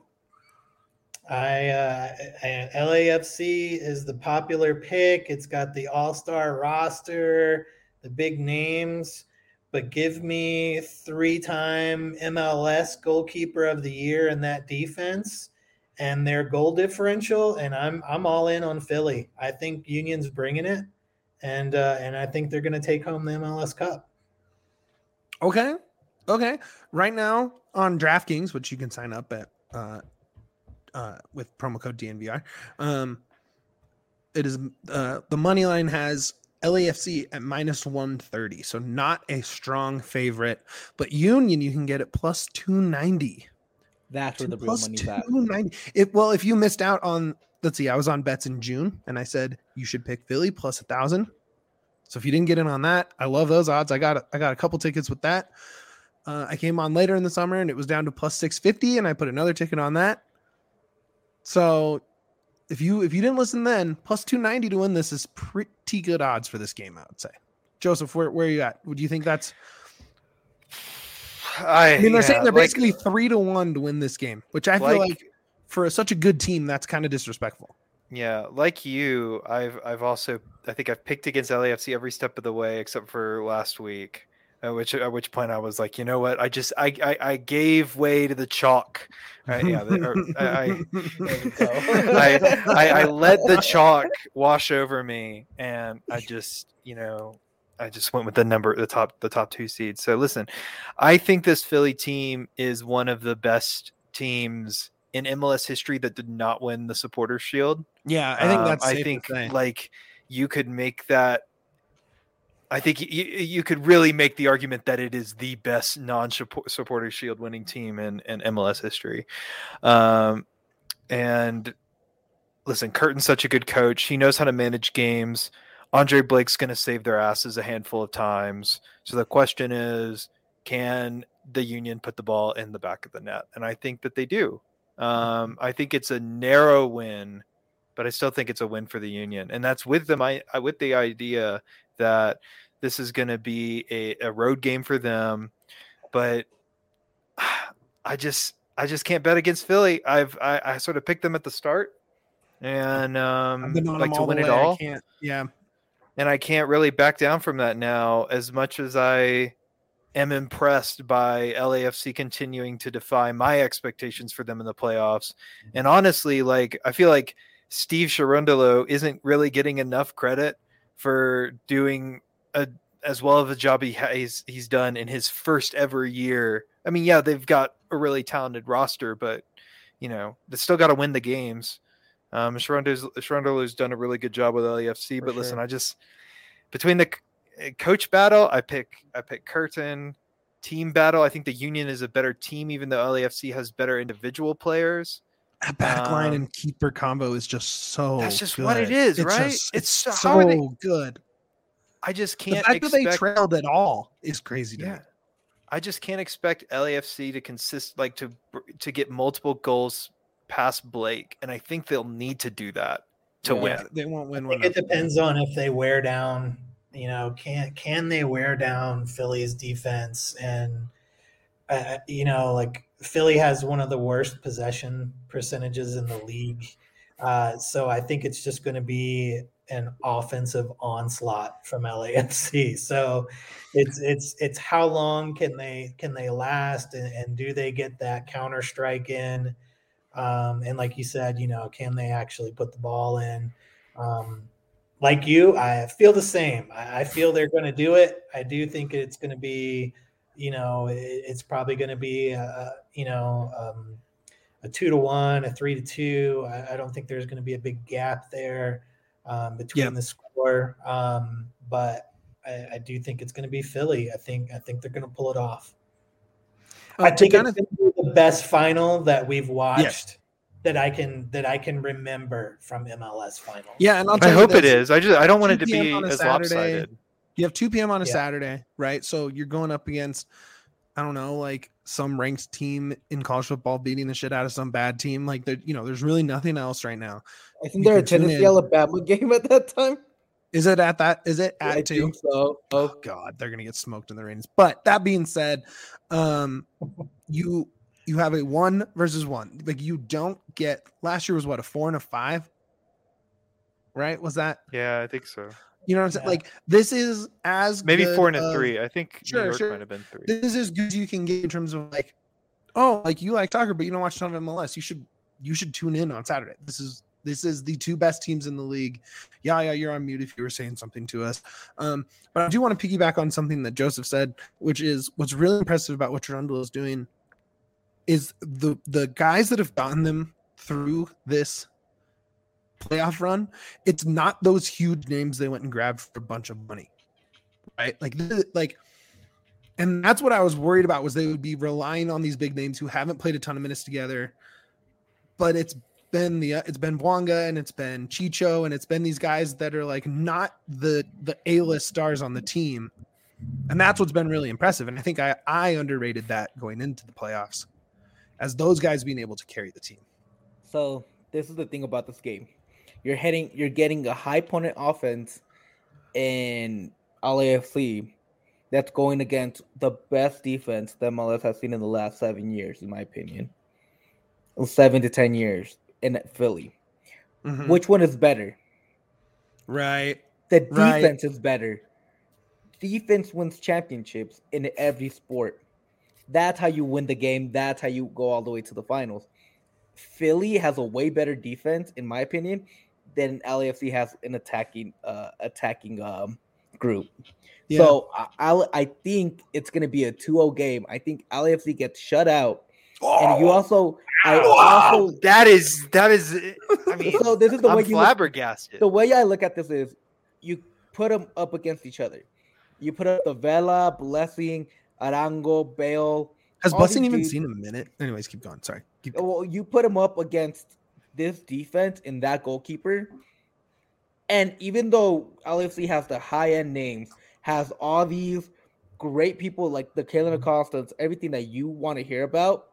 I, uh, I L A F C is the popular pick. It's got the all-star roster, the big names, but give me three-time M L S goalkeeper of the year in that defense and their goal differential, and I'm I'm all in on Philly. I think Union's bringing it, and uh, and I think they're going to take home the M L S Cup. Okay. Okay. Right now on DraftKings, which you can sign up at uh, uh, with promo code D N V R, um, it is uh, the money line has L A F C at minus one thirty, so not a strong favorite. But Union, you can get it plus two ninety. That's where the real Plus money's at. two ninety. It well, if you missed out on, let's see, I was on bets in June, and I said you should pick Philly plus a thousand. So if you didn't get in on that, I love those odds. I got I got a couple tickets with that. Uh, I came on later in the summer, and it was down to plus six fifty, and I put another ticket on that. So if you if you didn't listen then, plus two ninety to win this is pretty good odds for this game, I would say. Joseph, where where are you at? Would you think that's? I, I mean, they're yeah, saying they're like, basically three to one to win this game, which I feel like, like for such a good team, that's kind of disrespectful. Yeah, like you, I've I've also I think I've picked against L A F C every step of the way except for last week. At which at which point I was like, you know what? I just I I, I gave way to the chalk. Right? Yeah, or, I, I, I I let the chalk wash over me, and I just you know I just went with the number the top the top two seeds. So listen, I think this Philly team is one of the best teams in M L S history that did not win the Supporters Shield. Yeah, I think that's. Um, Safe I think to say. like you could make that. I think you, you could really make the argument that it is the best non-Supporters Shield winning team in, in M L S history. Um, and listen, Curtin's such a good coach. He knows how to manage games. Andre Blake's going to save their asses a handful of times. So the question is, can the Union put the ball in the back of the net? And I think that they do. Um, I think it's a narrow win, but I still think it's a win for the Union. And that's with them. I, I with the idea that this is going to be a, a road game for them, but I just, I just can't bet against Philly. I've, I, I sort of picked them at the start and, um, like to win it all. I can't, yeah. And I can't really back down from that now, as much as I am impressed by L A F C continuing to defy my expectations for them in the playoffs. And honestly, like, I feel like Steve Cherundolo isn't really getting enough credit for doing a as well of a job he has he's done in his first ever year. I mean, yeah, they've got a really talented roster, but you know, they still got to win the games. Um, Cherundolo's done a really good job with L A F C, For but sure. listen, I just between the coach battle, I pick I pick Curtin. Team battle, I think the Union is a better team, even though L A F C has better individual players. That back line Um, and keeper combo is just so. That's just good. what it is, It's right? just- It's it's so- how are they- so good. I just The can't fact that they expect. trailed at all is crazy to me. Yeah, I just can't expect L A F C to consist like to to get multiple goals past Blake, and I think they'll need to do that to Yeah. win. They won't win I one. think it depends on if they wear down. You know, can can they wear down Philly's defense? And uh, you know, like Philly has one of the worst possession percentages in the league. Uh, so I think it's just going to be an offensive onslaught from L A F C. So it's it's it's how long can they can they last, and, and do they get that counter strike in? Um, and like you said, you know, can they actually put the ball in? Um, like you, I feel the same. I, I feel they're going to do it. I do think it's going to be, you know, it, it's probably going to be, a, you know, um, a two to one, a three to two. I, I don't think there's going to be a big gap there um, between Yeah. the score. Um, but I, I do think it's going to be Philly. I think I think they're going to pull it off. Uh, I to think kind it's of gonna be the best final that we've watched Yes. that I can that I can remember from M L S finals. yeah, and I'll I tell you hope it this, is. I just I don't want it to two p m be on a as Saturday. lopsided. You have two p.m. on a Yeah. Saturday, right? So you're going up against, I don't know, like some ranked team in college football beating the shit out of some bad team. Like, there, you know, there's really nothing else right now. I think You they're a can tune Tennessee in. Alabama game at that time. Is it at that? Is it at I two? think so. Oh God, they're gonna get smoked in the ratings. But that being said, um, you you have a one versus one. Like, you don't get. Last year was what, a four and a five, right? Was that? Yeah, I think so. You know what I'm saying? Yeah. Like, this is as Maybe good four and a of- three. I think Sure, New York sure. might have been three. This is as good as you can get in terms of like, oh, like you like soccer, but you don't watch a ton of M L S. You should you should tune in on Saturday. This is this is the two best teams in the league. Yeah, yeah, you're on mute if you were saying something to us. Um, but I do want to piggyback on something that Joseph said, which is what's really impressive about what Trundle is doing is the the guys that have gotten them through this playoff run. It's not those huge names they went and grabbed for a bunch of money, right? Like, this, like. And that's what I was worried about, was they would be relying on these big names who haven't played a ton of minutes together. But it's been the it's been Bwanga and it's been Chicho and it's been these guys that are like not the the A-list stars on the team. And that's what's been really impressive. And I think I, I underrated that going into the playoffs, as those guys being able to carry the team. So this is the thing about this game. You're heading you're getting a high opponent offense in L A F C that's going against the best defense that M L S has seen in the last seven years, in my opinion. Seven to ten years in Philly. Mhm. Which one is better? Right. The Right. defense is better. Defense wins championships in every sport. That's how you win the game. That's how you go all the way to the finals. Philly has a way better defense, in my opinion, than L A F C has an attacking uh, attacking um, group. Yeah. So I, I I think it's going to be a two oh game. I think L A F C gets shut out. And you also, I also, that is that is. I mean, so this is the I'm way you look, flabbergasted. the way I look at this is, you put them up against each other. You put up the Vela, Blessing, Arango, Bale. Has all Blessing these even dudes- seen a minute? Anyways, keep going. Sorry. Keep going. Well, you put him up against this defense and that goalkeeper. And even though L A F C has the high end names, has all these great people like the Kalen Acostas, everything that you want to hear about,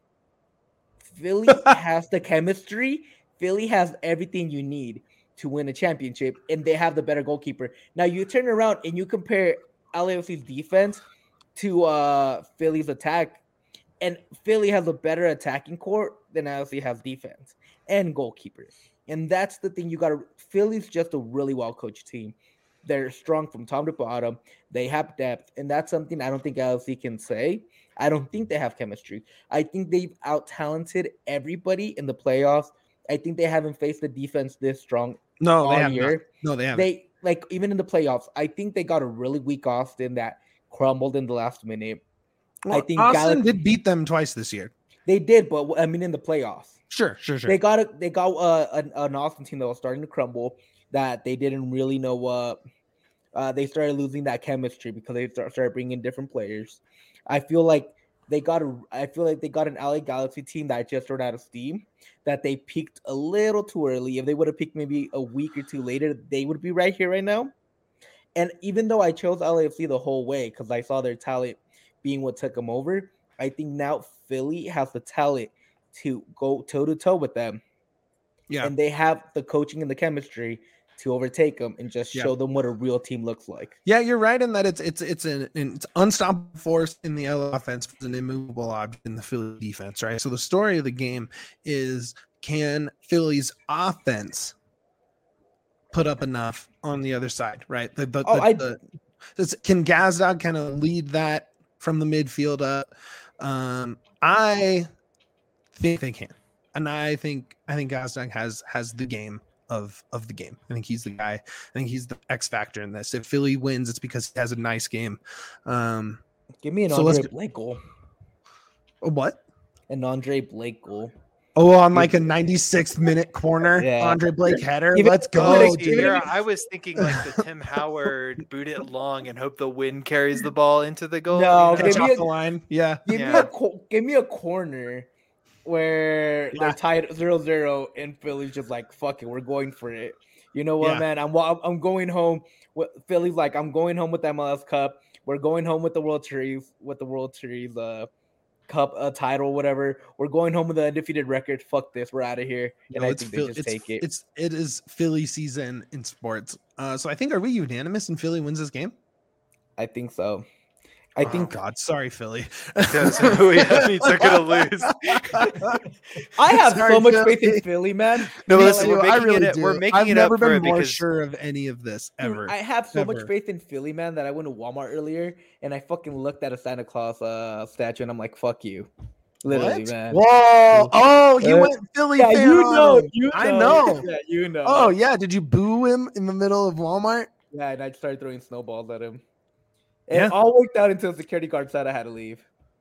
Philly has the chemistry. Philly has everything you need to win a championship, and they have the better goalkeeper. Now you turn around and you compare L A F C's defense to uh, Philly's attack, and Philly has a better attacking core than L A F C has defense and goalkeepers. And that's the thing you got to. Philly's just a really well coached team. They're strong from top to bottom. They have depth, and that's something I don't think L A F C can say. I don't think they have chemistry. I think they've out-talented everybody in the playoffs. I think they haven't faced the defense this strong No, all they have year. not. No, they haven't. They like even in the playoffs. I think they got a really weak Austin that crumbled in the last minute. Well, I think Austin Galaxy- did beat them twice this year. They did, but I mean in the playoffs. Sure, sure, sure. They got a, they got uh, an, an Austin team that was starting to crumble. That they didn't really know what. Uh, they started losing that chemistry because they start, started bringing in different players. I feel like they got a. I feel like they got an L A Galaxy team that just ran out of steam. That they peaked a little too early. If they would have peaked maybe a week or two later, they would be right here right now. And even though I chose L A F C the whole way because I saw their talent being what took them over, I think now Philly has the talent to go toe to toe with them. Yeah. and they have the coaching and the chemistry to overtake them and just Yeah. show them what a real team looks like. Yeah, you're right in that it's it's it's an, an it's unstoppable force in the L A offense, but an immovable object in the Philly defense, right? So the story of the game is, can Philly's offense put up enough on the other side, right? The, the, Oh, the, I- the, this- can Gazdag kind of lead that from the midfield up? Um, I think they can, and I think I think Gazdag has has the game of of the game. I think he's the guy. I think he's the X factor in this. If Philly wins, it's because he has a nice game. Um, Give me an So let's Andre go- Blake goal. what? An Andre Blake goal. Oh, on like a ninety-sixth minute corner, Yeah. Andre Blake header. Even- Let's even go, if- See, dude. here I was thinking like the Tim Howard boot it long and hope the wind carries the ball into the goal. No, you know? Catch give me off a- the line. Yeah. Give me Yeah. a co- give me a corner where Yeah. they're tied zero zero and Philly's just like, fuck it, we're going for it. You know what, Yeah. man? I'm wa- I'm going home. With, Philly's like, I'm going home with the M L S Cup. We're going home with the World Series, with the World Series uh, Cup uh, title, whatever. We're going home with the undefeated record. Fuck this, we're out of here. And No, I it's think Phil- they just it's, take it. It's it is Philly season in sports. Uh, so I think, are we unanimous and Philly wins this game? I think so. I Oh, think God, sorry, Philly. That's who we have. They're gonna lose. I have Sorry, so much Philly. faith in Philly, man. No, Me listen, too, we're I making really it. We're do. making I've it never up for been it more because sure of any of this Dude, ever. I have so much Ever. faith in Philly, man, that I went to Walmart earlier and I fucking looked at a Santa Claus uh, statue and I'm like, fuck you. Literally, What? man. Whoa! Oh, you Uh, went Philly Yeah, fan you on know, him. you know. I know. Yeah, you know. Oh yeah, did you boo him in the middle of Walmart? Yeah, and I started throwing snowballs at him. It Yeah. all worked out until the security guard said I had to leave.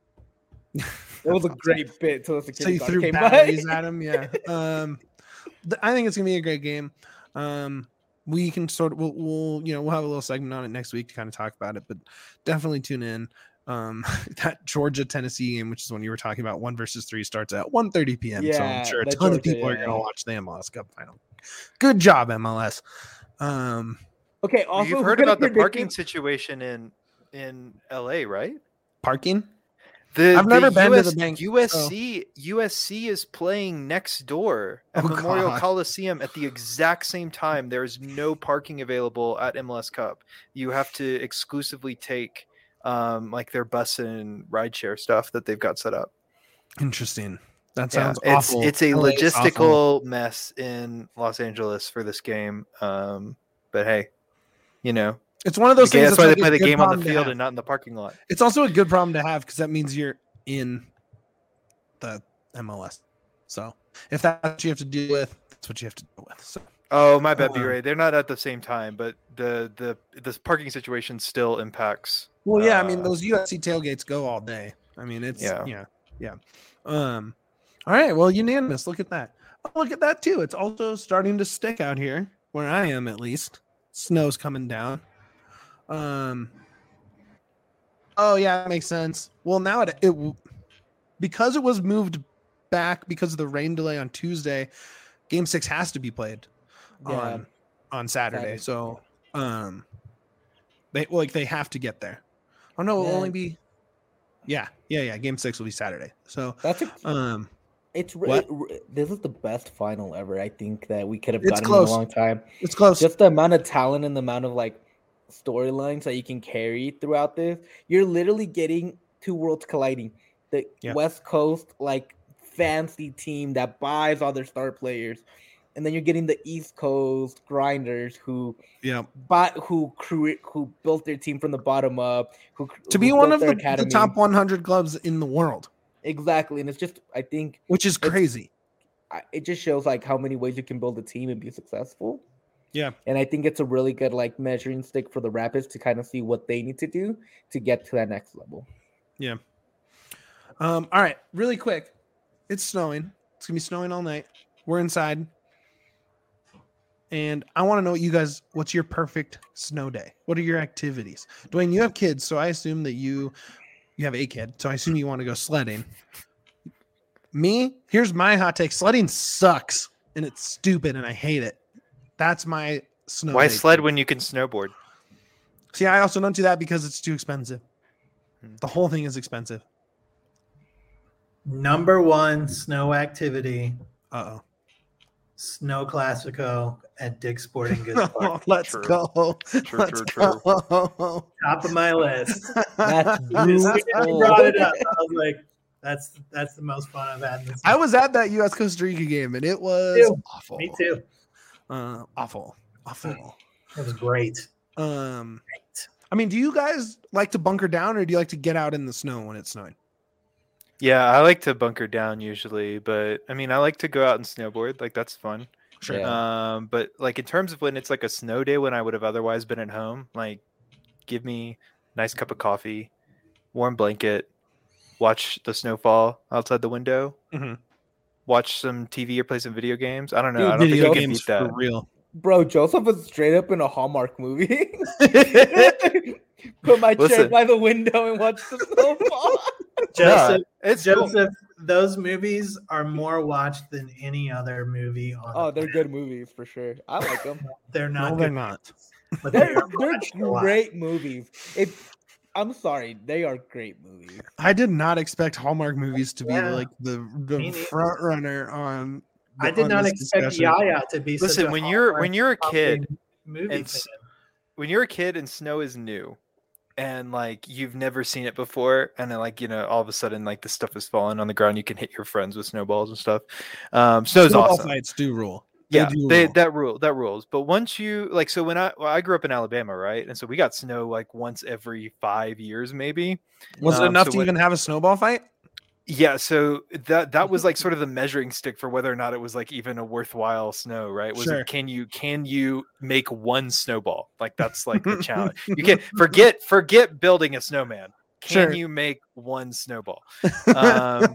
It was a great bit till the So security you guard threw came batteries by. at him, yeah. Um, th- I think it's gonna be a great game. Um, we can sort of we'll, we'll you know we'll have a little segment on it next week to kind of talk about it, but definitely tune in. Um, that Georgia Tennessee game, which is when you were talking about, one versus three, starts at one thirty p.m. so Yeah, I'm sure a that ton of Georgia, people are yeah. gonna watch the M L S Cup final. Good job, M L S. Um, Okay, also you've who heard could've about the parking predicted- situation in in L A, right? parking. The, I've never the been to US, the bank, U S C U S C is playing next door at Oh, Memorial God. Coliseum at the exact same time. There is no parking available at M L S Cup. You have to exclusively take um, like their bus and rideshare stuff that they've got set up. Interesting. That Yeah, sounds it's awful. it's a L A is awful. logistical mess in Los Angeles for this game. Um, but hey, you know, It's one of those okay, things. that's why like they a play the good game on the problem to field have. and not in the parking lot. It's also a good problem to have because that means you're in the M L S. So if that's what you have to deal with, that's what you have to deal with. So Oh, my bad, Uh, B-Ray. They're not at the same time, but the the the parking situation still impacts. well, yeah, I mean uh, those U S C tailgates go all day. I mean it's yeah, Yeah. yeah, yeah. Um, all right, well, unanimous. Look at that. Oh, look at that too. It's also starting to stick out here where I am, at least. Snow's coming down. Um. Oh yeah, that makes sense. Well, now it it w- because it was moved back because of the rain delay on Tuesday. Game six has to be played Yeah. on on Saturday. Saturday. So, um, they well, like they have to get there. Oh no, it'll Yeah. only be. Yeah, yeah, yeah. Game six will be Saturday. So, That's a, um, it's re- what? re- this is the best final ever. I think that we could have It's gotten close. in a long time. it's close. Just the amount of talent and the amount of like storylines that you can carry throughout this. You're literally getting two worlds colliding. The Yeah. West Coast like fancy team that buys all their star players, and then you're getting the East Coast grinders who yeah. bought who create who built their team from the bottom up. Who To who be one built of their the, the top one hundred clubs in the world, exactly, and it's just I think which is It's- crazy. I- it just shows like how many ways you can build a team and be successful. Yeah. And I think it's a really good like measuring stick for the Rapids to kind of see what they need to do to get to that next level. Um, all right, really quick. It's snowing. It's gonna be snowing all night. We're inside. And I want to know what you guys, what's your perfect snow day? What are your activities? Dwayne, you have kids, so I assume that you you have a kid, so I assume you want to go sledding. Me, here's my hot take. Sledding sucks and it's stupid and I hate it. That's my snow. Why day sled tip. when you can snowboard? See, I also don't do that because it's too expensive. The whole thing is expensive. Number one snow activity, Uh-oh. Snow Classico at Dick's Sporting Goods Oh, Park. let's True. go. True, Let's true, true. go. Top of my list. That's As soon as you beautiful. brought it up, I was like, that's that's the most fun I've had in this. I was at that U S Costa Rica game and it was too. awful. Me too. Uh, awful. Awful. It was great. Um, I mean, do you guys like to bunker down or do you like to get out in the snow when it's snowing? Yeah, I like to bunker down usually, but I mean, I like to go out and snowboard. Like that's fun. Sure. Yeah. Um, but like in terms of when it's like a snow day when I would have otherwise been at home, like give me a nice cup of coffee, warm blanket, watch the snowfall outside the window, Mhm. watch some T V or play some video games. I don't know. Dude, I don't think Video I can games beat that. for real. Bro, Joseph was straight up in a Hallmark movie. Put my chair Listen. by the window and watch the snowfall. Joseph, Nah, it's cool. Joseph, those movies are more watched than any other movie on. Oh, the they're good movies for sure. I like them. They're not. No, they're good, not. But they They're are they're watched a lot. great movies. If I'm sorry, they are great movies. I did not expect Hallmark movies to be Yeah. like the, Me the neither. front runner on. I did on not this expect discussion. Yaya to be. such Listen, a when you're when Hallmark you're a kid fucking movie and fan. s- when you're a kid and snow is new and like you've never seen it before and then like you know all of a sudden like the stuff is falling on the ground, you can hit your friends with snowballs and stuff. Um snow's Snowball awesome. fights do rule. They Yeah, do they, rule. that rule that rules. But once you like, so when I well, I grew up in Alabama, right, and so we got snow like once every five years, maybe. Was it um, enough so to when- even have a snowball fight? Yeah, so that that was like sort of the measuring stick for whether or not it was like even a worthwhile snow, right? Was Sure. it can you can you make one snowball? Like that's like the challenge. You can forget forget building a snowman. Can Sure. you make one snowball? Um,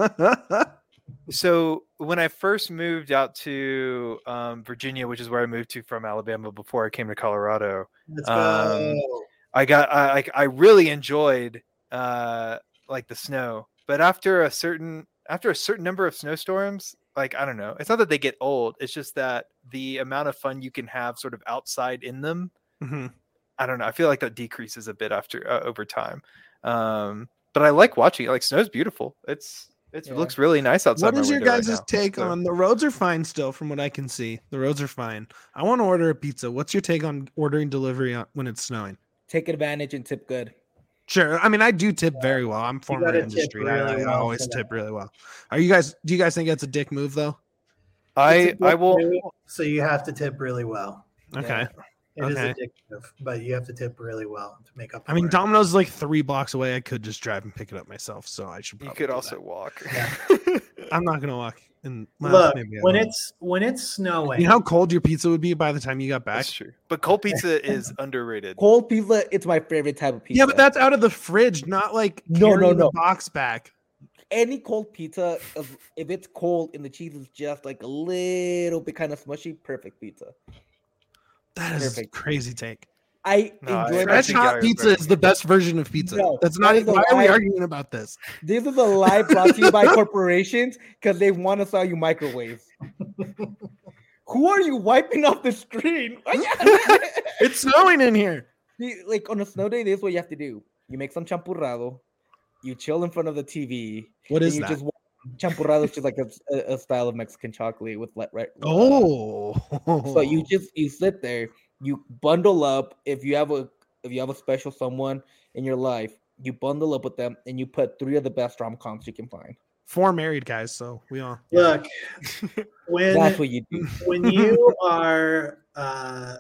So when I first moved out to um, Virginia, which is where I moved to from Alabama before I came to Colorado, Let's um, go. I got I like I really enjoyed uh, like the snow, but after a certain after a certain number of snowstorms, like I don't know, it's not that they get old, it's just that the amount of fun you can have sort of outside in them, Mhm. I don't know, I feel like that decreases a bit after uh, over time. Um, but I like watching it. Like snow's beautiful. It's It's, Yeah. It looks really nice outside. What my is your window right guys' now, take so. on the roads are fine still from what I can see? The roads are fine. I want to order a pizza. What's your take on ordering delivery on, when it's snowing? Take advantage and tip good. Sure. I mean, I do tip very well. I'm former gotta tip industry. I, really I well always for that. tip really well. Are you guys? Do you guys think that's a dick move though? I It's a I dick will. move, So you have to tip really well. Okay. It is Okay. addictive, but you have to tip really well to make up. I mean, for it. Domino's is like three blocks away. I could just drive and pick it up myself. So I should. You Probably could do also that. walk. Yeah. I'm not gonna walk. In well, Look, maybe I when will. it's when it's snowing, you know how cold your pizza would be by the time you got back. That's true. But cold pizza is underrated. Cold pizza, it's my favorite type of pizza. Yeah, but that's out of the fridge, not like No, no, carrying the no. box back. any cold pizza, if, if it's cold and the cheese is just like a little bit kind of smushy, perfect pizza. That is Perfect. a crazy take. I No, I- enjoy I my Fresh think hot Gary's pizza right. is the best version of pizza. No, That's that not. is a Why are we lie. arguing about this? This is a lie brought to you by corporations because they want to sell you microwaves. Who are you wiping off the screen? It's snowing in here. See, like on a snow day, this is what you have to do. You make some champurrado, you chill in front of the T V. What and is you that? just wa- champurrado is just like a, a, a style of Mexican chocolate with like right. Oh, So you just you sit there, you bundle up. If you have a if you have a special someone in your life, you bundle up with them and you put three of the best rom coms you can find. four married guys, so we all look when That's what you do. when you are uh,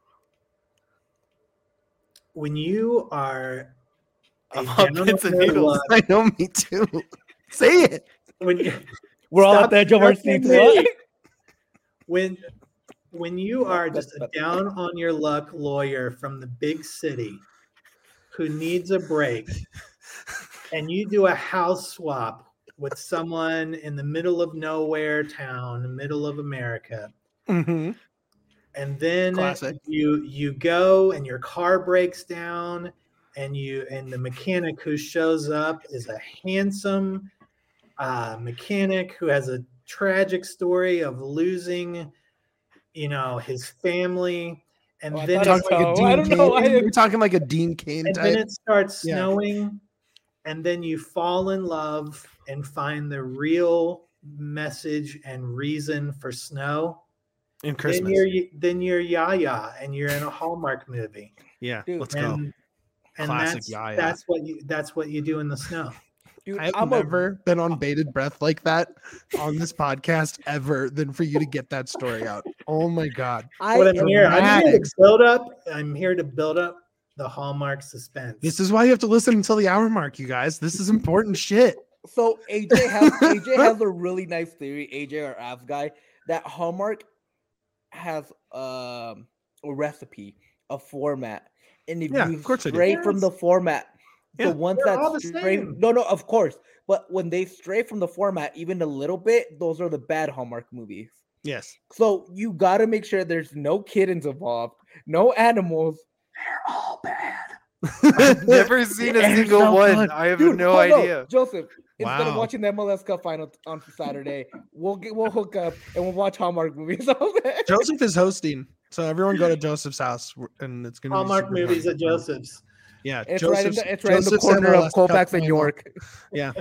when you are a I'm on down pins and on your needles. luck- I know, me too. Say it. when you, We're all Stop at the edge of our judging seats. me. What? when when you are just a That's- down on your luck lawyer from the big city who needs a break and you do a house swap with someone in the middle of nowhere town, the middle of America, Mm-hmm. and then Classic. you you go and your car breaks down and you and the mechanic who shows up is a handsome uh, mechanic who has a tragic story of losing, you know, his family, and Oh, I then thought it's it Talking like, like a So, I Dean don't know Cain. why- You're talking like a Dean Kane and type. then it starts Yeah. snowing, and then you fall in love and find the real message and reason for snow, In then Christmas. you're then you're Yaya, and you're in a Hallmark movie. Yeah, Dude, let's go. And, and Classic that's Yaya. that's what you that's what you do in the snow. Dude, I have I'm never been on bated breath like that on this podcast ever than for you to get that story out. Oh my God. a, I What am I'm here, I'm here to dramatic. build up. I'm here to build up the Hallmark suspense. This is why you have to listen until the hour mark, you guys. This is important shit. So A J has A J has a really nice theory. A J, our apps guy, that Hallmark has um, a recipe, a format, and if Yeah, you of course they do. stray from Yes. the format, Yeah, the ones they're that all the stray, same. no, no, of course, but when they stray from the format even a little bit, those are the bad Hallmark movies. Yes. So you got to make sure there's no kittens involved, no animals. They're all bad. I've never seen a It's single so one. fun. I have Dude, no hold on. idea. Joseph, instead of Wow. watching the M L S Cup final t- on Saturday, we'll get we'll hook up and we'll watch Hallmark movies. Okay? Joseph is hosting. So everyone go to Joseph's house and it's gonna Hallmark be super movies fun. at Joseph's. Yeah, It's right in Joseph's- the it's right in the Joseph's corner M L of S Cup Colfax and final. York. Yeah.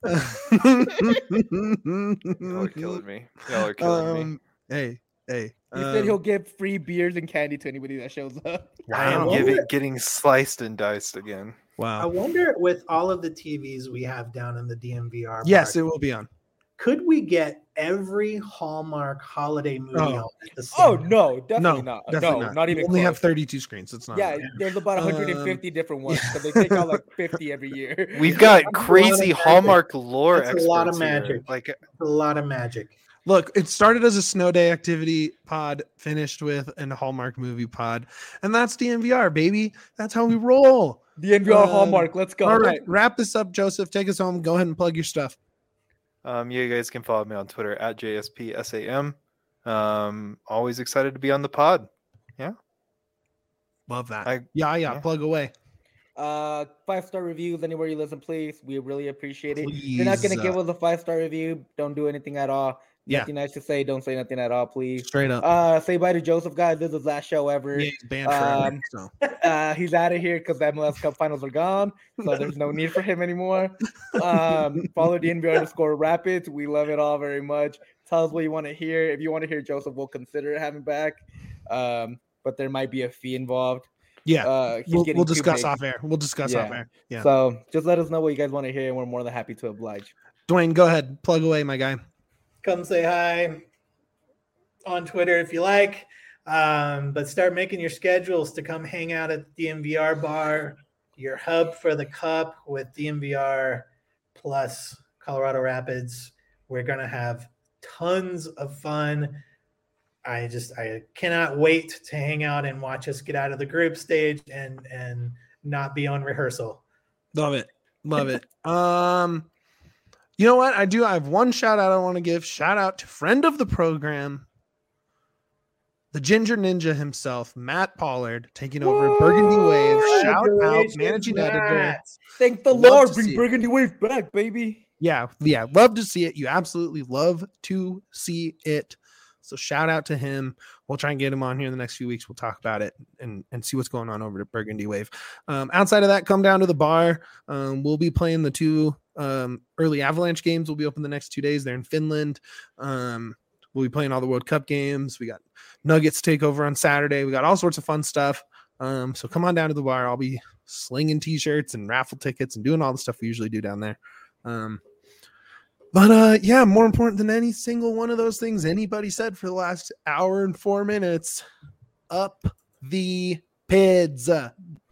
Y'all are killing me. Y'all are killing me. um, hey, hey. He said he'll um, give free beers and candy to anybody that shows up. I am wow. giving, wonder- getting sliced and diced again. I Wow. wonder, with all of the T Vs we have down in the D M V R, Yes, park, it will be on. could we get every Hallmark holiday movie Oh. on at the same Oh time? no, definitely No, not. definitely no, not. not, We even. only have close. thirty-two screens. It's not. Yeah, on. there's about one hundred fifty different ones because they take out like fifty every year. We've got That's a lot of crazy magic. Hallmark lore That's a lot of experts here. magic. Like, It's a lot of magic. Look, it started as a snow day activity pod, finished with a Hallmark movie pod, and that's D M V R, baby. That's how we roll. The N V R Um, Hallmark. Let's go. All right, wrap this up, Joseph. Take us home. Go ahead and plug your stuff. um, you guys can follow me on Twitter at J S P S A M. Um, always excited to be on the pod. Love that. I- yeah, yeah, yeah. Plug away. Uh, five star reviews anywhere you listen, please. We really appreciate it. If you're not gonna Please, give uh, us a five star review, don't do anything at all. Yeah. Nothing nice to say. Don't say nothing at all, please. Straight up. Uh, say bye to Joseph, guys. This is his last show ever. Yeah, he's banned forever. um, So. Uh, he's out of here because the M L S Cup finals are gone, so there's no need for him anymore. Um, follow the N B R underscore Rapids. We love it all very much. Tell us what you want to hear. If you want to hear Joseph, we'll consider having back. Um, but there might be a fee involved. Yeah, Uh, he's we'll, getting we'll too discuss big. off air. We'll discuss off Yeah. air. Yeah. So just let us know what you guys want to hear, and we're more than happy to oblige. Dwayne, go ahead. Plug away, my guy. Come say hi on Twitter if you like. Um, but start making your schedules to come hang out at the D M V R bar, your hub for the cup with D M V R plus Colorado Rapids. We're going to have tons of fun. I just I cannot wait to hang out and watch us get out of the group stage and and not be on rehearsal. Love it. Love it. Um, you know what? I do. I have one shout out I want to give. Shout out to friend of the program, the Ginger Ninja himself, Matt Pollard, taking over Burgundy Wave. Shout out, Congratulations, managing editor. Matt. Thank the Love Lord, to bring see it. Burgundy Wave back, baby. Yeah, yeah, love to see it. You absolutely love to see it. So shout out to him. We'll try and get him on here in the next few weeks. We'll talk about it and, and see what's going on over at Burgundy Wave. Um, outside of that, come down to the bar. Um, we'll be playing the two um, early Avalanche games. We'll be open the next two days. They're in Finland. Um, we'll be playing all the World Cup games. We got Nuggets takeover on Saturday. We got all sorts of fun stuff. Um, so come on down to the bar. I'll be slinging t-shirts and raffle tickets and doing all the stuff we usually do down there. Um, But uh, yeah, more important than any single one of those things anybody said for the last hour and four minutes, up the P I D S.